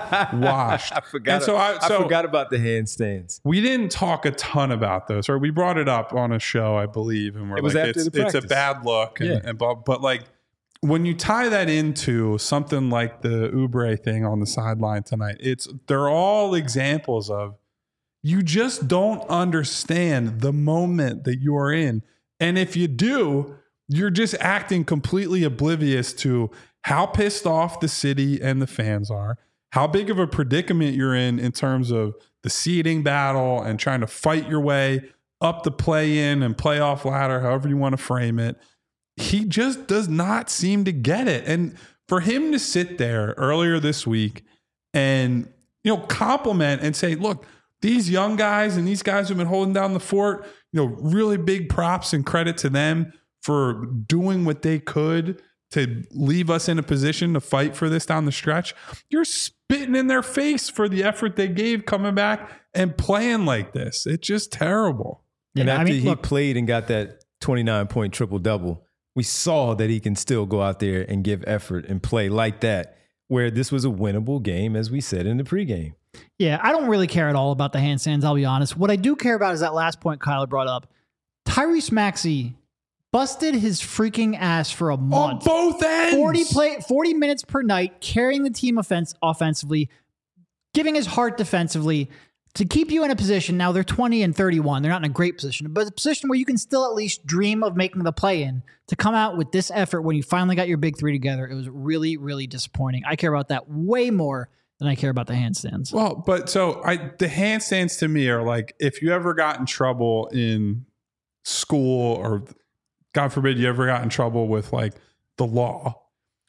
Washed. I forgot, And so I- so- I forgot about the handstands. We didn't talk a ton about those, or we brought it up on a show, I believe, and we're It was like, after it's, the it's a practice. bad look, and, Yeah. and but, but like when you tie that into something like the Oubre thing on the sideline tonight, it's they're all examples of you just don't understand the moment that you are in, and if you do, you're just acting completely oblivious to how pissed off the city and the fans are, how big of a predicament you're in in terms of the seeding battle and trying to fight your way up the play-in and playoff ladder, however you want to frame it. He just does not seem to get it. And for him to sit there earlier this week and, you know, compliment and say, look, these young guys and these guys who've been holding down the fort, you know, really big props and credit to them for doing what they could to leave us in a position to fight for this down the stretch. You're spitting in their face for the effort they gave coming back and playing like this. It's just terrible. And Yeah, after I mean, he look- played and got that twenty-nine point triple double, we saw that he can still go out there and give effort and play like that, where this was a winnable game, as we said in the pregame. Yeah, I don't really care at all about the handstands, I'll be honest. What I do care about is that last point Kyle brought up. Tyrese Maxey busted his freaking ass for a On month. both ends. forty play forty minutes per night, carrying the team offense offensively, giving his heart defensively to keep you in a position. Now they're twenty and thirty-one. They're not in a great position, but a position where you can still at least dream of making the play in. To come out with this effort when you finally got your big three together, it was really, really disappointing. I care about that way more than I care about the handstands. Well, but so I the handstands to me are like if you ever got in trouble in school or God forbid you ever got in trouble with like the law.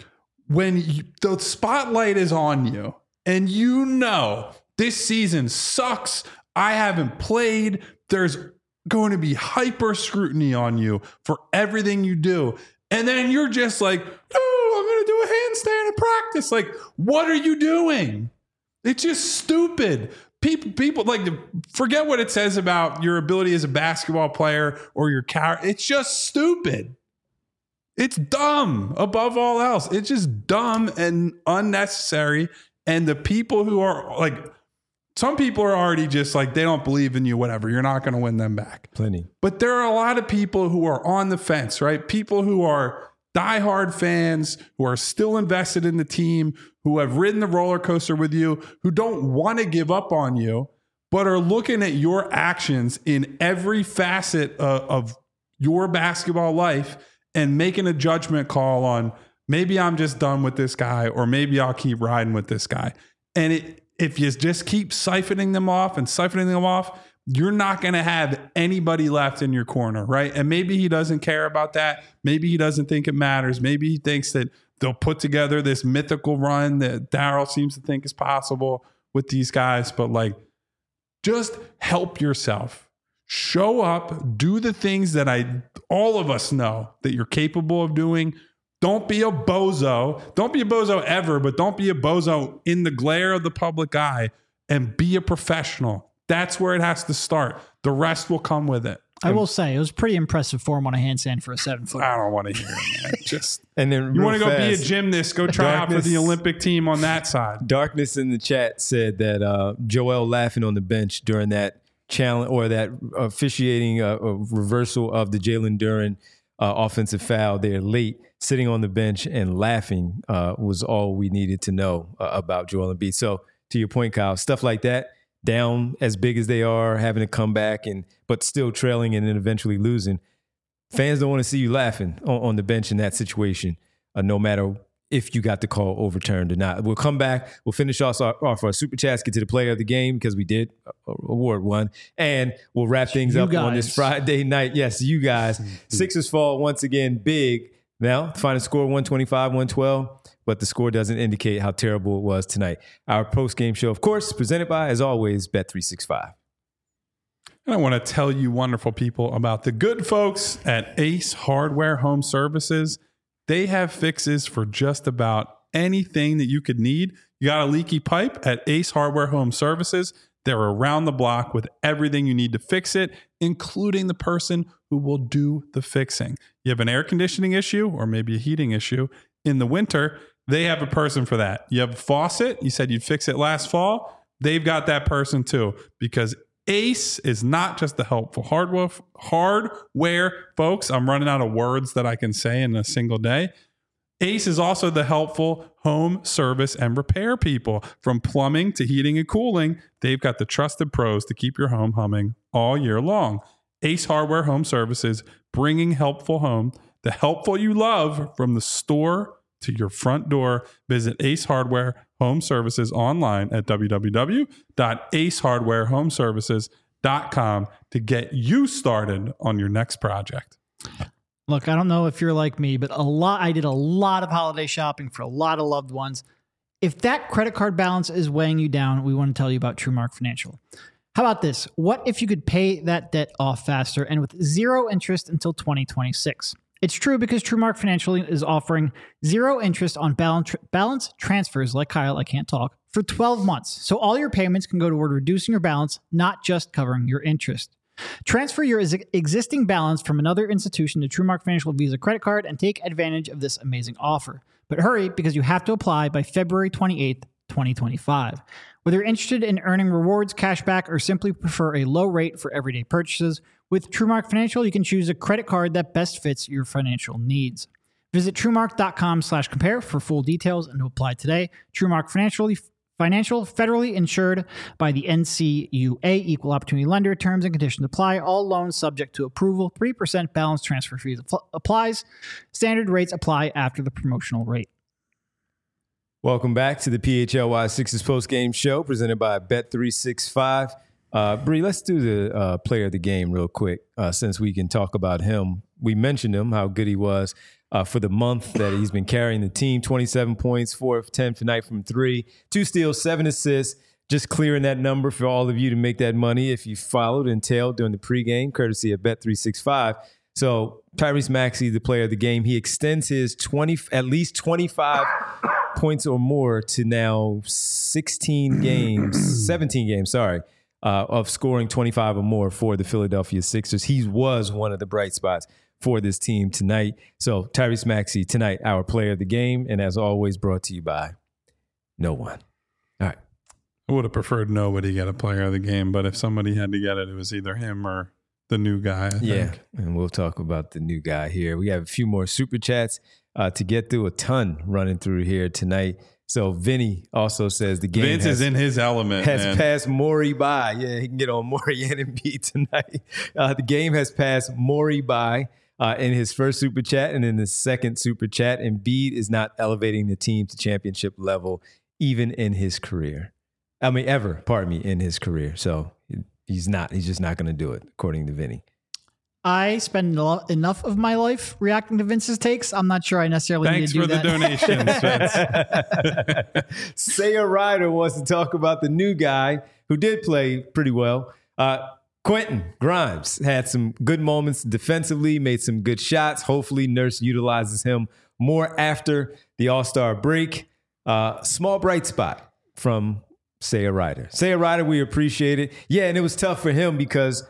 When you, the spotlight is on you and you know this season sucks, I haven't played, there's going to be hyper scrutiny on you for everything you do. And then you're just like, oh, I'm going to do a handstand in practice. Like, what are you doing? It's just stupid. People, people like forget what it says about your ability as a basketball player or your character. It's just stupid. It's dumb above all else. It's just dumb and unnecessary. And the people who are like, some people are already just like, they don't believe in you, whatever. You're not going to win them back. Plenty. But there are a lot of people who are on the fence, right? People who are diehard fans, who are still invested in the team, who have ridden the roller coaster with you, who don't want to give up on you, but are looking at your actions in every facet of, of your basketball life and making a judgment call on maybe I'm just done with this guy or maybe I'll keep riding with this guy. And it, if you just keep siphoning them off and siphoning them off, you're not going to have anybody left in your corner, right? And maybe he doesn't care about that. Maybe he doesn't think it matters. Maybe he thinks that they'll put together this mythical run that Daryl seems to think is possible with these guys. But like, just help yourself. Show up, do the things that I, all of us know that you're capable of doing. Don't be a bozo. Don't be a bozo ever, but don't be a bozo in the glare of the public eye, and be a professional. That's where it has to start. The rest will come with it. I will say it was pretty impressive form on a handstand for a seven foot. I don't want to hear it, man. Just and then you want to go fast, be a gymnast, go try Darkness, out for the Olympic team on that side. Darkness in the chat said that uh, Joel laughing on the bench during that challenge or that officiating uh, a reversal of the Jalen Duren uh, offensive foul there late, sitting on the bench and laughing uh, was all we needed to know uh, about Joel Embiid. So to your point, Kyle, stuff like that, down as big as they are, having to come back and but still trailing and then eventually losing. Fans don't want to see you laughing on, on the bench in that situation, uh, no matter if you got the call overturned or not. We'll come back. We'll finish off our, off our super chats, get to the player of the game because we did award one, and we'll wrap things you up guys. on this Friday night. Yes, you guys. Sixers fall once again big. Now, final score one twenty-five, one twelve. But the score doesn't indicate how terrible it was tonight. Our post-game show, of course, presented by, as always, Bet three sixty-five. And I want to tell you wonderful people about the good folks at Ace Hardware Home Services. They have fixes for just about anything that you could need. You got a leaky pipe at Ace Hardware Home Services. They're around the block with everything you need to fix it, including the person who will do the fixing. You have an air conditioning issue or maybe a heating issue in the winter, they have a person for that. You have a faucet, you said you'd fix it last fall, they've got that person too, because Ace is not just the helpful hardware, hardware folks. I'm running out of words that I can say in a single day. Ace is also the helpful home service and repair people. From plumbing to heating and cooling, they've got the trusted pros to keep your home humming all year long. Ace Hardware Home Services, bringing helpful home, the helpful you love from the store to your front door. Visit Ace Hardware Home Services online at w w w dot ace hardware home services dot com to get you started on your next project. Look, I don't know if you're like me, but a lot. I did a lot of holiday shopping for a lot of loved ones. If that credit card balance is weighing you down, we want to tell you about TrueMark Financial. How about this? What if you could pay that debt off faster and with zero interest until twenty twenty-six? It's true because TrueMark Financial is offering zero interest on balance, balance transfers, like Kyle, I can't talk, for twelve months. So all your payments can go toward reducing your balance, not just covering your interest. Transfer your existing balance from another institution to TrueMark Financial Visa credit card and take advantage of this amazing offer. But hurry, because you have to apply by February twenty-eighth, twenty twenty-five. Whether you're interested in earning rewards, cashback, or simply prefer a low rate for everyday purchases, with TrueMark Financial, you can choose a credit card that best fits your financial needs. Visit TrueMark.com slash compare for full details and to apply today. TrueMark Financial, financial, federally insured by the N C U A, Equal Opportunity Lender. Terms and conditions apply. All loans subject to approval. three percent balance transfer fees applies. Standard rates apply after the promotional rate. Welcome back to the P H L Y Sixers post-game show presented by Bet three sixty-five. Uh, Bree, let's do the uh, player of the game real quick uh, since we can talk about him. We mentioned him, how good he was uh, for the month that he's been carrying the team. twenty-seven points, four of ten tonight from three, two steals, seven assists, just clearing that number for all of you to make that money if you followed and tailed during the pregame, courtesy of Bet three sixty-five. So Tyrese Maxey, the player of the game, he extends his twenty at least twenty-five points or more to now sixteen games, seventeen games, sorry. Uh, of scoring twenty-five or more for the Philadelphia Sixers. He was one of the bright spots for this team tonight. So Tyrese Maxey tonight, our player of the game, and as always, brought to you by no one. All right. I would have preferred nobody get a player of the game, but if somebody had to get it, it was either him or the new guy, I think. Yeah, and we'll talk about the new guy here. We have a few more super chats uh, to get through, a ton running through here tonight. So Vinny also says the game Vince has, is in his element. has man. passed Morey by. Yeah, he can get on Morey and Embiid tonight. Uh, the game has passed Morey by uh, in his first super chat, and in the second super chat, Embiid is not elevating the team to championship level, even in his career. I mean, ever, pardon me, in his career. So he's not. He's just not going to do it, according to Vinny. I spend enough of my life reacting to Vince's takes. I'm not sure I necessarily Thanks need to do for that. the donations, Vince. Saya Ryder wants to talk about the new guy who did play pretty well. Uh, Quentin Grimes had some good moments defensively, made some good shots. Hopefully Nurse utilizes him More after the All-Star break. Uh, small bright spot from Saya Ryder. Saya Ryder, we appreciate it. Yeah, and it was tough for him because,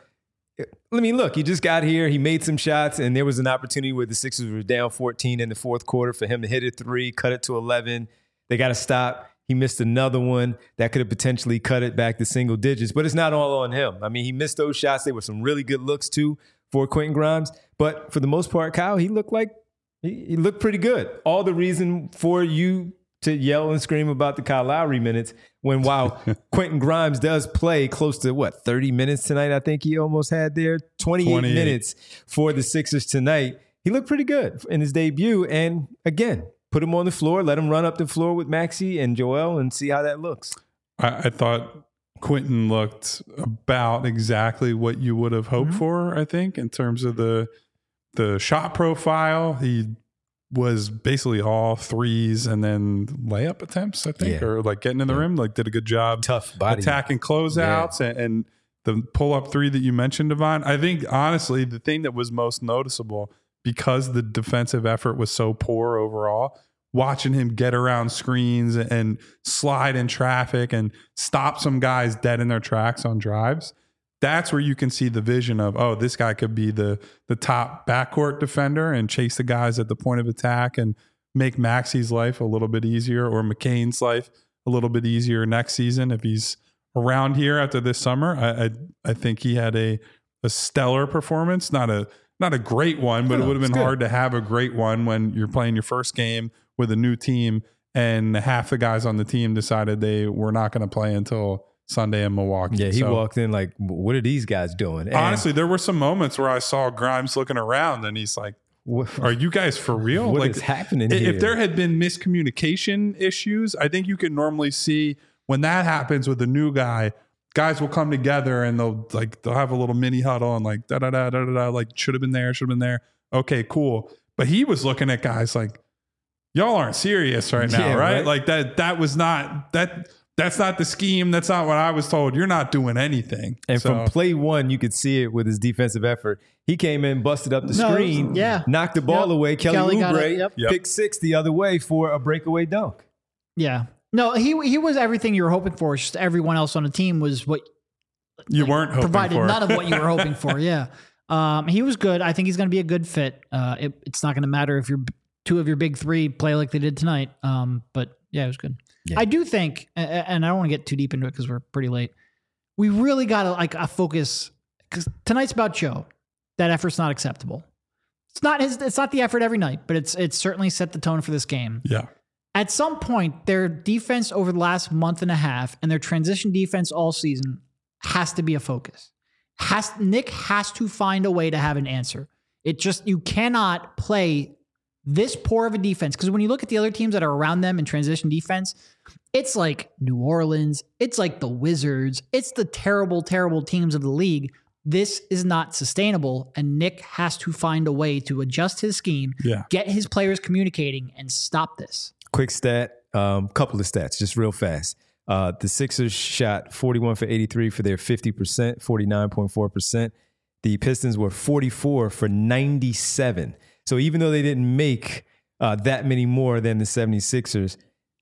I mean, look, he just got here. He made some shots, and there was an opportunity where the Sixers were down fourteen in the fourth quarter for him to hit a three, cut it to eleven. They got to stop. He missed another one that could have potentially cut it back to single digits, but it's not all on him. I mean, he missed those shots. They were some really good looks, too, for Quentin Grimes. But for the most part, Kyle, he looked like he, he looked pretty good. All the reason for you to yell and scream about the Kyle Lowry minutes when while Quentin Grimes does play close to, what, thirty minutes tonight, I think he almost had there, twenty-eight, twenty-eight minutes for the Sixers tonight. He looked pretty good in his debut. And again, put him on the floor, let him run up the floor with Maxey and Joel and see how that looks. I, I thought Quentin looked about exactly what you would have hoped mm-hmm. for, I think, in terms of the the shot profile. He was basically all threes and then layup attempts, I think, yeah. or like getting in the yeah. rim, like did a good job. Tough body. Attacking closeouts yeah. and, and the pull-up three that you mentioned, Devon. I think, honestly, the thing that was most noticeable, because the defensive effort was so poor overall, watching him get around screens and slide in traffic and stop some guys dead in their tracks on drives, that's where you can see the vision of, oh, this guy could be the the top backcourt defender and chase the guys at the point of attack and make Maxey's life a little bit easier, or McCain's life a little bit easier next season if he's around here after this summer. I I, I think he had a a stellar performance, not a Not a great one, but it would have been hard to have a great one when you're playing your first game with a new team and half the guys on the team decided they were not going to play until Sunday in Milwaukee. Yeah, he so, walked in like, what are these guys doing? And honestly, there were some moments where I saw Grimes looking around and he's like, are you guys for real? What like, is happening if here? If there had been miscommunication issues, I think you could normally see when that happens with a new guy, guys will come together and they'll like they'll have a little mini huddle and like da da da da da like should have been there, should have been there. Okay, cool. But he was looking at guys like, y'all aren't serious right now, yeah, right? right? Like that that was not that that's not the scheme. That's not what I was told. You're not doing anything. And so, from play one, you could see it with his defensive effort. He came in, busted up the no, screen, yeah. knocked the ball yep. away. Kelly, Kelly Oubre yep. picked six the other way for a breakaway dunk. Yeah. No, he he was everything you were hoping for. It's just everyone else on the team was what you like, weren't hoping provided for. None of what you were hoping for. Yeah. Um, he was good. I think he's going to be a good fit. Uh, it, it's not going to matter if your two of your big three play like they did tonight. Um, but yeah, it was good. Yeah. I do think, and I don't want to get too deep into it because we're pretty late. We really got to like a focus because tonight's about Joe. That effort's not acceptable. It's not his. It's not the effort every night, but it's it's certainly set the tone for this game. Yeah. At some point, their defense over the last month and a half and their transition defense all season has to be a focus. Has Nick has to find a way to have an answer. It just, you cannot play this poor of a defense because when you look at the other teams that are around them in transition defense, it's like New Orleans, it's like the Wizards, it's the terrible, terrible teams of the league. This is not sustainable, and Nick has to find a way to adjust his scheme, yeah. get his players communicating, and stop this. Quick stat, um, couple of stats, just real fast. Uh, the Sixers shot forty-one for eighty-three for their fifty percent, forty-nine point four percent. The Pistons were forty-four for ninety-seven. So even though they didn't make uh, that many more than the seventy-sixers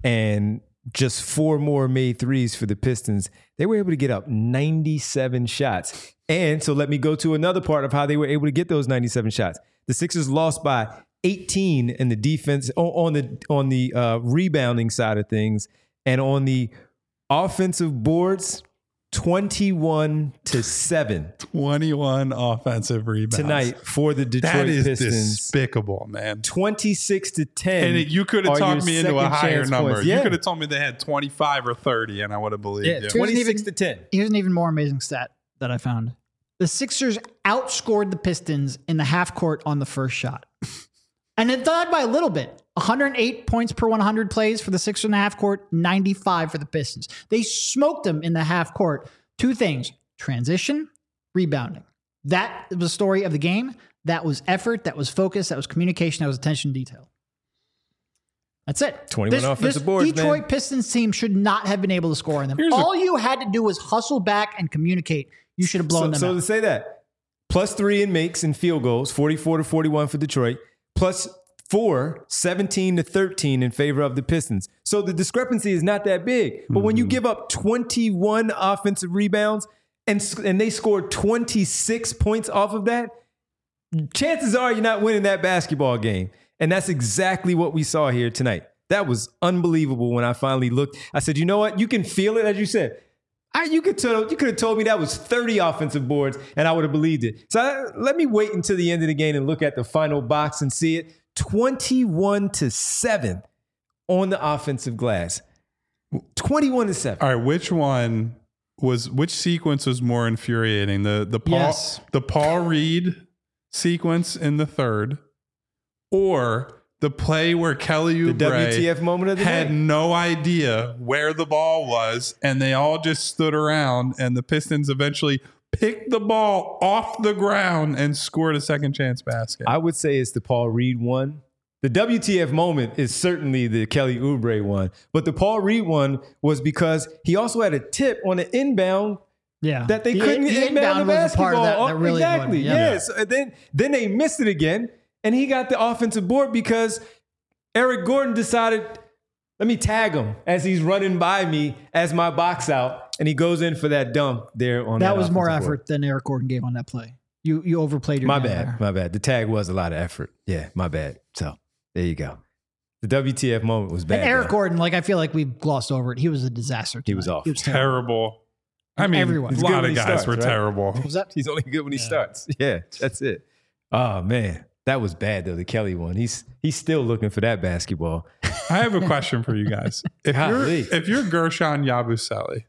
and just four more made threes for the Pistons, they were able to get up ninety-seven shots. And so let me go to another part of how they were able to get those ninety-seven shots. The Sixers lost by eighteen in the defense on the on the uh, rebounding side of things, and on the offensive boards, twenty-one to seven. twenty-one offensive rebounds tonight for the Detroit that is Pistons. Despicable, man. twenty-six to ten. And it, you could have talked me into a higher number. Yeah. You could have told me they had twenty-five or thirty, and I would have believed yeah, you. twenty-six to ten. Here's an even more amazing stat that I found. The Sixers outscored the Pistons in the half court on the first shot. And it died by a little bit. one hundred eight points per one hundred plays for the Sixers in the half court, ninety-five for the Pistons. They smoked them in the half court. Two things, transition, rebounding. That was the story of the game. That was effort. That was focus. That was communication. That was attention to detail. That's it. twenty-one this, offensive this boards, Detroit man. Pistons team should not have been able to score on them. Here's All a, you had to do was hustle back and communicate. You should have blown so, them so out. to say that, plus three in makes and field goals, forty-four to forty-one for Detroit, plus for seventeen to thirteen in favor of the Pistons. So the discrepancy is not that big. But when you give up twenty-one offensive rebounds and, and they scored twenty-six points off of that, chances are you're not winning that basketball game. And that's exactly what we saw here tonight. That was unbelievable when I finally looked. I said, you know what? You can feel it, as you said. I, you could tell, you could have told me that was thirty offensive boards, and I would have believed it. So I, let me wait until the end of the game and look at the final box and see it. twenty-one to seven on the offensive glass. twenty-one to seven. All right, which one was which sequence was more infuriating? The the Paul Yes. the Paul Reed sequence in the third, or the play where Kelly The Oubre W T F moment of the had night. no idea where the ball was, and they all just stood around, and the Pistons eventually picked the ball off the ground and scored a second chance basket. I would say it's the Paul Reed one. The W T F moment is certainly the Kelly Oubre one, but the Paul Reed one was because he also had a tip on an inbound Yeah. that they The- couldn't the inbound the was a basketball. part of that, that really exactly. annoyed me. Yeah. Yes. And then then they missed it again, and he got the offensive board because Eric Gordon decided, let me tag him as he's running by me as my box out, and he goes in for that dunk there on that. That was more offensive board. effort than Eric Gordon gave on that play. You you overplayed your My man bad. there. My bad. The tag was a lot of effort. Yeah, my bad. So there you go. The W T F moment was bad. And Eric though. Gordon, like I feel like we've glossed over it. He was a disaster. He was tonight. awful. He was terrible. terrible. I mean, Everyone. a He's good lot when of he guys starts, were right? terrible. Was that? He's only good when he Yeah. starts. Yeah, that's it. Oh man, that was bad though. The Kelly one. He's he's still looking for that basketball. I have a question for you guys. If you're Golly. if you're Gershon Yabusele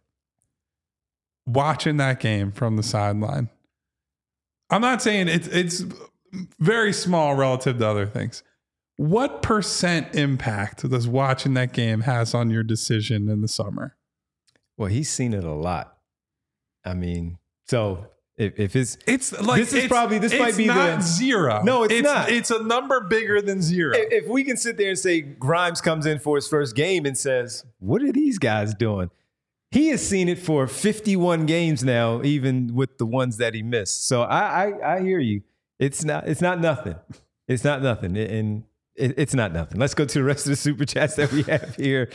watching that game from the sideline, I'm not saying it's it's very small relative to other things. What percent impact does watching that game has on your decision in the summer? Well, he's seen it a lot. I mean, so if, if it's It's like This is it's- probably- this it's might be not the- zero. No, it's not. It's a number bigger than zero. if we can sit there and say Grimes comes in for his first game and says, "What are these guys doing?" He has seen it for fifty-one games now, even with the ones that he missed. So I I, I hear you. It's not it's not nothing. It's not nothing, and it, it's not nothing. Let's go to the rest of the super chats that we have here.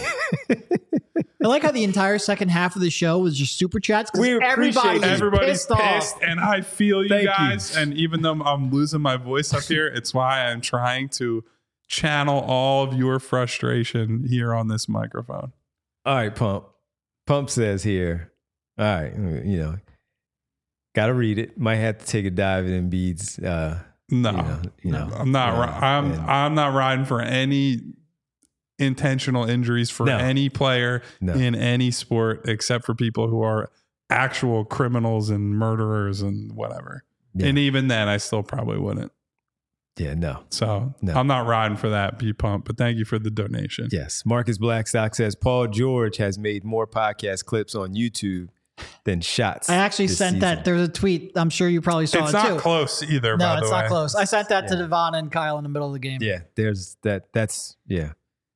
I like how the entire second half of the show was just super chats because We appreciate everybody it. is Everybody's pissed, pissed, off. and I feel you Thank you. guys. And even though I'm losing my voice up here, it's why I'm trying to channel all of your frustration here on this microphone. All right, Pump. Pump says here, all right, you know, got to read it. Might have to take a dive in Embiid's. Uh, No, You know, you no, know, I'm not. yeah, ri- I'm and- I'm not riding for any intentional injuries for No. any player No. in any sport, except for people who are actual criminals and murderers and whatever. Yeah. And even then, I still probably wouldn't. yeah, no. So No. I'm not riding for that, B Pump. But thank you for the donation. Yes. Marcus Blackstock says Paul George has made more podcast clips on YouTube than shots. I actually this sent season. that. There's a tweet. I'm sure you probably saw It's it not too. close either. No, by it's the not way. close. I sent that to Devon and Kyle in the middle of the game. Yeah, there's that. That's, yeah.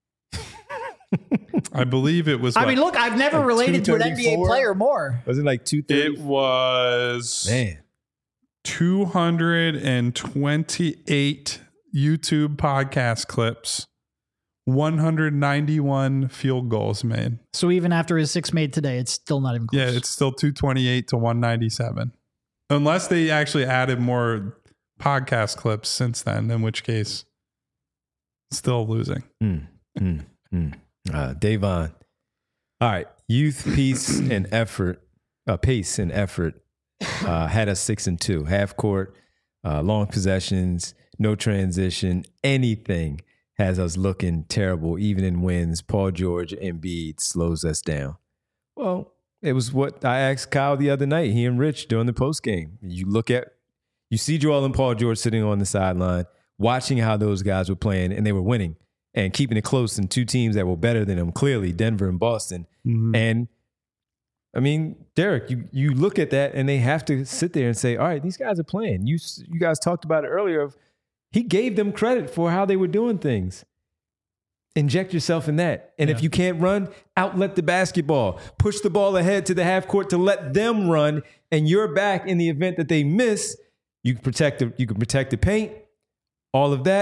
I believe it was. I what? mean, look, I've never Like related to an N B A two thirty-four? player more. Was it like two thirty? it was Man. two hundred twenty-eight YouTube podcast clips, one hundred ninety-one field goals made. So even after his six made today, it's still not even close. Yeah, it's still two twenty-eight to one ninety-seven. Unless they actually added more podcast clips since then, in which case, still losing. Mm, mm, mm. Uh, Davon. All right. Youth, peace, and effort. Uh, pace and effort uh, had us six and two. Half court, uh, long possessions, no transition, anything has us looking terrible, even in wins. Paul George, Embiid slows us down. Well, it was what I asked Kyle the other night, he and Rich during the post game. You look at, you see Joel and Paul George sitting on the sideline, watching how those guys were playing, and they were winning and keeping it close in two teams that were better than them, clearly, Denver and Boston. Mhm. And I mean, Derek, you you look at that and they have to sit there and say, all right, these guys are playing. You you guys talked about it earlier. Of he gave them credit for how they were doing things. Inject yourself in that. And if Yeah. you can't run, outlet the basketball. Push the ball ahead to the half court to let them run, and you're back in the event that they miss. You can protect the, you can protect the paint. All of that.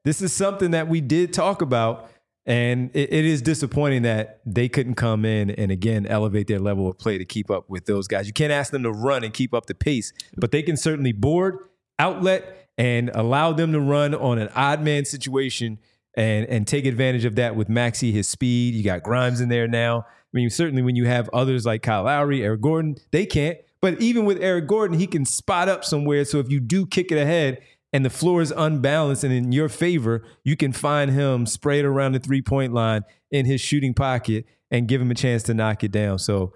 this is something that we did talk about. And it, it is disappointing that they couldn't come in and, again, elevate their level of play to keep up with those guys. You can't ask them to run and keep up the pace, but they can certainly board, outlet, and allow them to run on an odd man situation and, and take advantage of that with Maxey, his speed. You got Grimes in there now. I mean, certainly when you have others like Kyle Lowry, Eric Gordon, they can't. But even with Eric Gordon, he can spot up somewhere. So if you do kick it ahead, and the floor is unbalanced and in your favor, you can find him sprayed around the three-point line in his shooting pocket and give him a chance to knock it down. So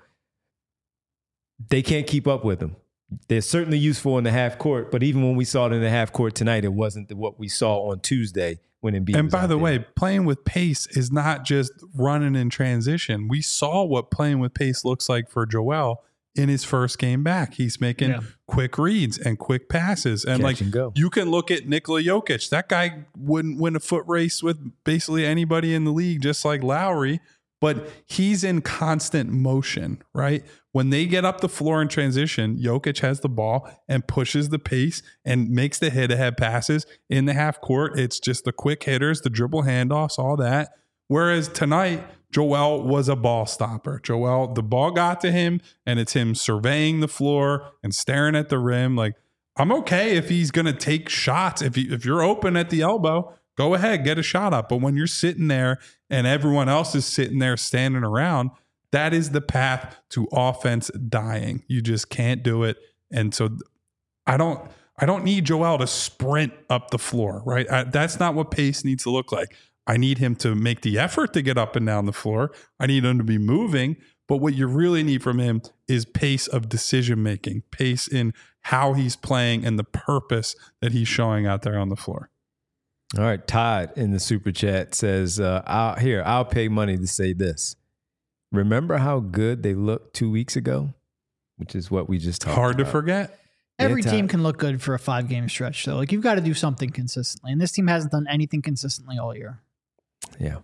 they can't keep up with him. They're certainly useful in the half court, but even when we saw it in the half court tonight, it wasn't what we saw on Tuesday when Embiid And was by out the there. way, playing with pace is not just running in transition. We saw what playing with pace looks like for Joel in his first game back. He's making Yeah. quick reads and quick passes. And Catch like and go. you can look at Nikola Jokic. That guy wouldn't win a foot race with basically anybody in the league, just like Lowry, but he's in constant motion, right? When they get up the floor in transition, Jokic has the ball and pushes the pace and makes the hit-ahead passes in the half court. It's just the quick hitters, the dribble handoffs, all that. Whereas tonight, Joel was a ball stopper. Joel, the ball got to him, and it's him surveying the floor and staring at the rim. Like, I'm okay if he's going to take shots. If you, if you're open at the elbow, go ahead, get a shot up. But when you're sitting there and everyone else is sitting there standing around, that is the path to offense dying. You just can't do it. And so I don't I don't need Joel to sprint up the floor, right? I, that's not what pace needs to look like. I need him to make the effort to get up and down the floor. I need him to be moving. But what you really need from him is pace of decision making, pace in how he's playing and the purpose that he's showing out there on the floor. All right, Todd in the super chat says, uh, I'll, here, I'll pay money to say this. Remember how good they looked two weeks ago? Which is what we just talked Hard about. to forget. Every Yeah, team Todd. can look good for a five game stretch. So like you've got to do something consistently. And this team hasn't done anything consistently all year. Yeah.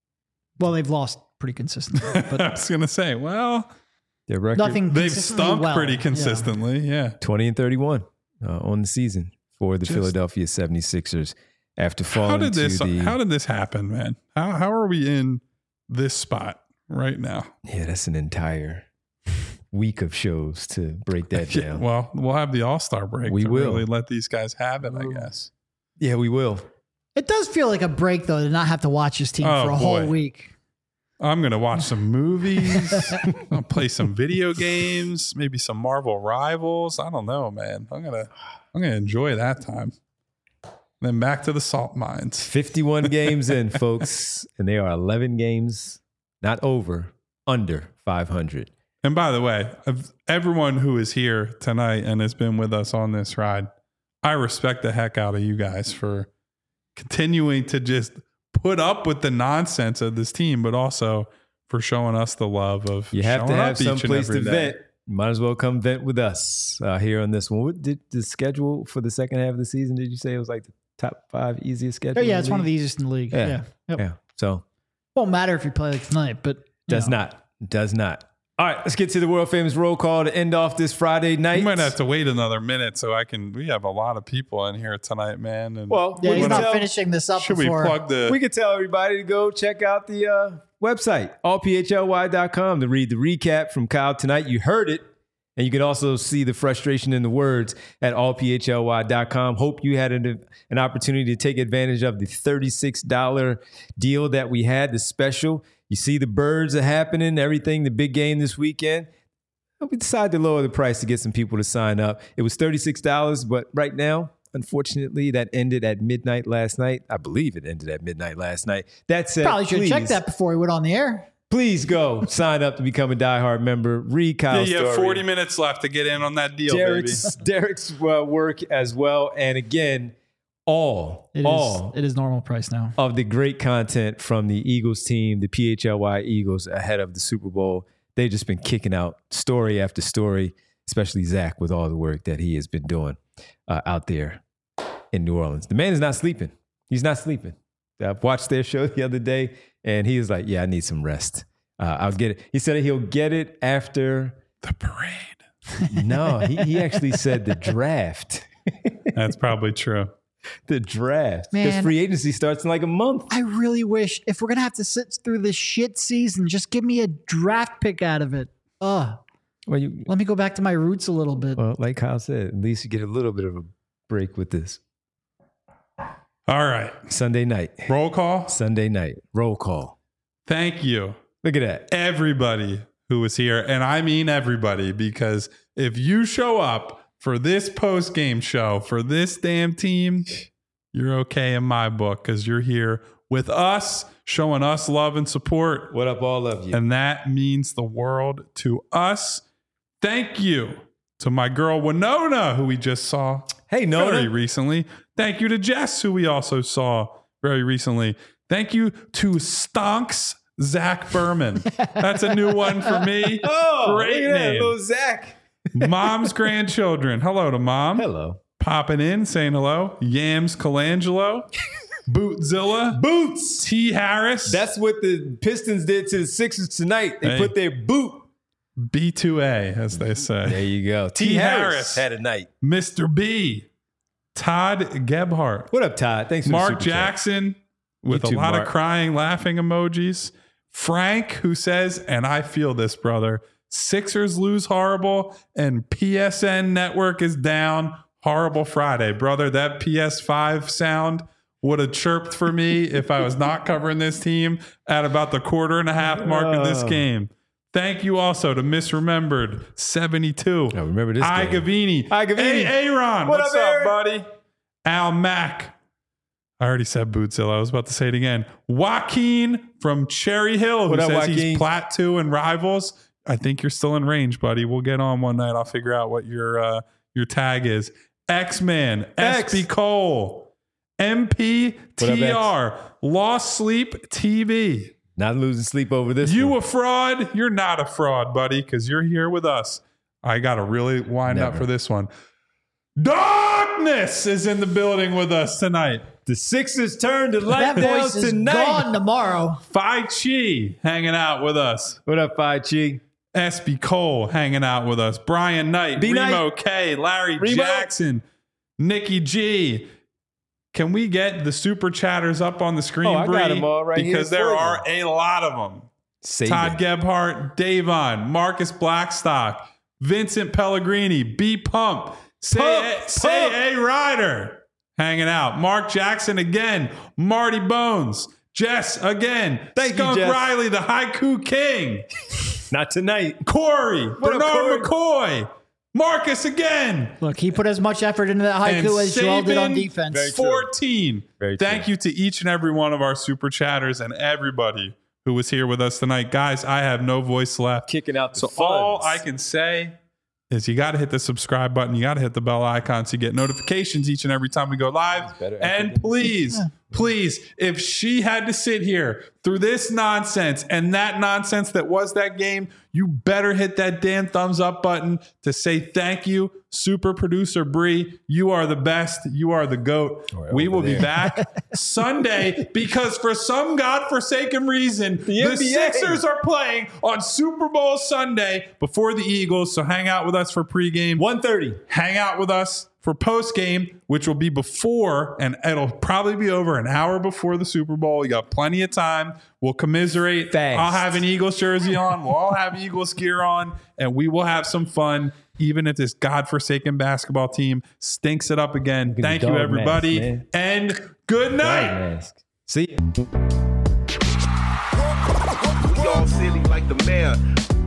Well, they've lost pretty consistently, I but was going to say, well, Their record, nothing they've consistently stumped well. pretty Yeah. consistently. Yeah. twenty and thirty-one uh, on the season for the Just- Philadelphia seventy-sixers after falling How did this to the... how did this happen, man? How how are we in this spot right now? Yeah, that's an entire week of shows to break that Yeah, down. well, we'll have the All-Star break We to will. really let these guys have it, I guess. Yeah, we will. It does feel like a break though to not have to watch this team Oh, for a boy. whole week. I'm going to watch some movies. I'll play some video games, maybe some Marvel Rivals. I don't know, man. I'm going to I'm going to enjoy that time. Then back to the salt mines. fifty-one games in, folks, and they are eleven games, not over, under five hundred. And by the way, of everyone who is here tonight and has been with us on this ride, I respect the heck out of you guys for continuing to just put up with the nonsense of this team, but also for showing us the love of You have to showing have up each some and place to every day. vent. You might as well come vent with us uh, here on this one. What did the schedule for the second half of the season? Did you say it was like the top five easiest schedule? Oh yeah, in it's the one of the league? easiest in the league. Yeah. Yeah. Yep. Yeah. So Won't matter if you play like tonight, but you does know. not. Does not. All right, let's get to the world famous roll call to end off this Friday night. We might have to wait another minute so I can. We have a lot of people in here tonight, man. And Well, Yeah, we he's can not tell- finishing this up should we before. plug the? We could tell everybody to go check out the uh, website, all p h l y dot com, to read the recap from Kyle tonight. You heard it. And you can also see the frustration in the words at all p h l y dot com. Hope you had an, an opportunity to take advantage of the thirty-six dollars deal that we had, the special. You see the birds are happening, everything, the big game this weekend. We decided to lower the price to get some people to sign up. It was thirty-six dollars, but right now, unfortunately, that ended at midnight last night. I believe it ended at midnight last night. That said, Probably should have please, checked that before he went on the air. please go sign up to become a diehard member. Read Yeah, Kyle's you have story. forty minutes left to get in on that deal, Derek's, Derek's uh, work as well. And again, all, It is. all It is normal price now. of the great content from the Eagles team, the P H L Y Eagles ahead of the Super Bowl. They've just been kicking out story after story, especially Zach with all the work that he has been doing uh, out there in New Orleans. The man is not sleeping. He's not sleeping. I watched their show the other day, and he was like, yeah, I need some rest. Uh, I'll get it. He said he'll get it after. The parade. No, he, he actually said the draft. That's probably true. The draft. Man. Because free agency starts in like a month. I really wish if we're gonna have to sit through this shit season, just give me a draft pick out of it. Ugh. Well, you, Let me go back to my roots a little bit. well, like Kyle said, at least you get a little bit of a break with this. All right. Sunday night. Roll call. Sunday night. Roll call. Thank you, Look at that. everybody who was here. And I mean everybody, because if you show up for this post game show for this damn team, you're okay in my book because you're here with us, showing us love and support. What up, all of you? And that means the world to us. Thank you to my girl Winona, who we just saw Hey, Nona. very recently. Thank you to Jess, who we also saw very recently. Thank you to Stonks Zach Berman. That's a new one for me. Oh, Great look at that, name. little Zach. Mom's grandchildren. Hello to mom. Hello. Popping in, saying hello. Yams Colangelo. Bootzilla. Boots. T. Harris. That's what the Pistons did to the Sixers tonight. They Hey. put their boot. B two A, as they say. There you go. T. T. Harris, Harris. had a night. Mister B. Todd Gebhardt. What up, Todd? Thanks for the Mark super chat. Jackson with You a too, lot Mark. of crying, laughing emojis. Frank, who says, and I feel this, brother, Sixers lose horrible and P S N network is down. Horrible Friday. Brother, that P S five sound would have chirped for me if I was not covering this team at about the quarter and a half mark of this Oh. game. Thank you also to Misremembered seventy-two. Oh, remember this I game. Gavini. Hi, Gavini. Hey, Aaron. What What's up, up, Aaron? buddy? Al Mack. I already said Bootzilla. I was about to say it again. Joaquin from Cherry Hill, who What up, says Joaquin? he's Plateau and Rivals. I think you're still in range, buddy. We'll get on one night. I'll figure out what your uh, your tag is. X-Man, X. S B Cole, M P T R, X? Lost Sleep T V. Not losing sleep over this. You one. a fraud? You're not a fraud, buddy, because you're here with us. I got to really wind up Never. for this one. Darkness is in the building with us tonight. The Sixers turn to light That down voice is tonight. gone tomorrow. Phi Chi hanging out with us. What up, Phi Chi? S B Cole hanging out with us. Brian Knight, B. Remo Knight. K, Larry Remo. Jackson, Nikki G. Can we get the super chatters up on the screen, Oh, I got Bree? them all right here Because there for you. are a lot of them. Save Todd it. Gebhardt, Davon, Marcus Blackstock, Vincent Pellegrini, B Pump, say, Pump, a, say A Ryder hanging out. Mark Jackson again, Marty Bones, Jess again, Thank you, Skunk Jess. Riley, the Haiku King, Not tonight. Corey, up, Bernard McCoy, Marcus again, Look, he put as much effort into that haiku And as Joel did on Saban- defense. Very true. fourteen. Very Thank true. you to each and every one of our super chatters and everybody who was here with us tonight. Guys, I have no voice left. Kicking out the So funds. all I can say is you got to hit the subscribe button. You got to hit the bell icon so you get notifications each and every time we go live. better effort And than- please, please, if she had to sit here through this nonsense and that nonsense that was that game, you better hit that damn thumbs up button to say thank you, super producer Bree. You are the best. You are the GOAT. Or We over will be there. back Sunday because for some godforsaken reason, The the N B A. Sixers are playing on Super Bowl Sunday before the Eagles. So hang out with us for pregame. one thirty. Hang out with us for postgame, which will be before, and it'll probably be over an hour before the Super Bowl. You got plenty of time. We'll commiserate. Fast. I'll have an Eagles jersey on. We'll all have Eagles gear on, and we will have some fun, even if this godforsaken basketball team stinks it up again. at Thank the you, dog everybody, mask, man. and good night. Mask. See ya. Y'all silly like the mayor.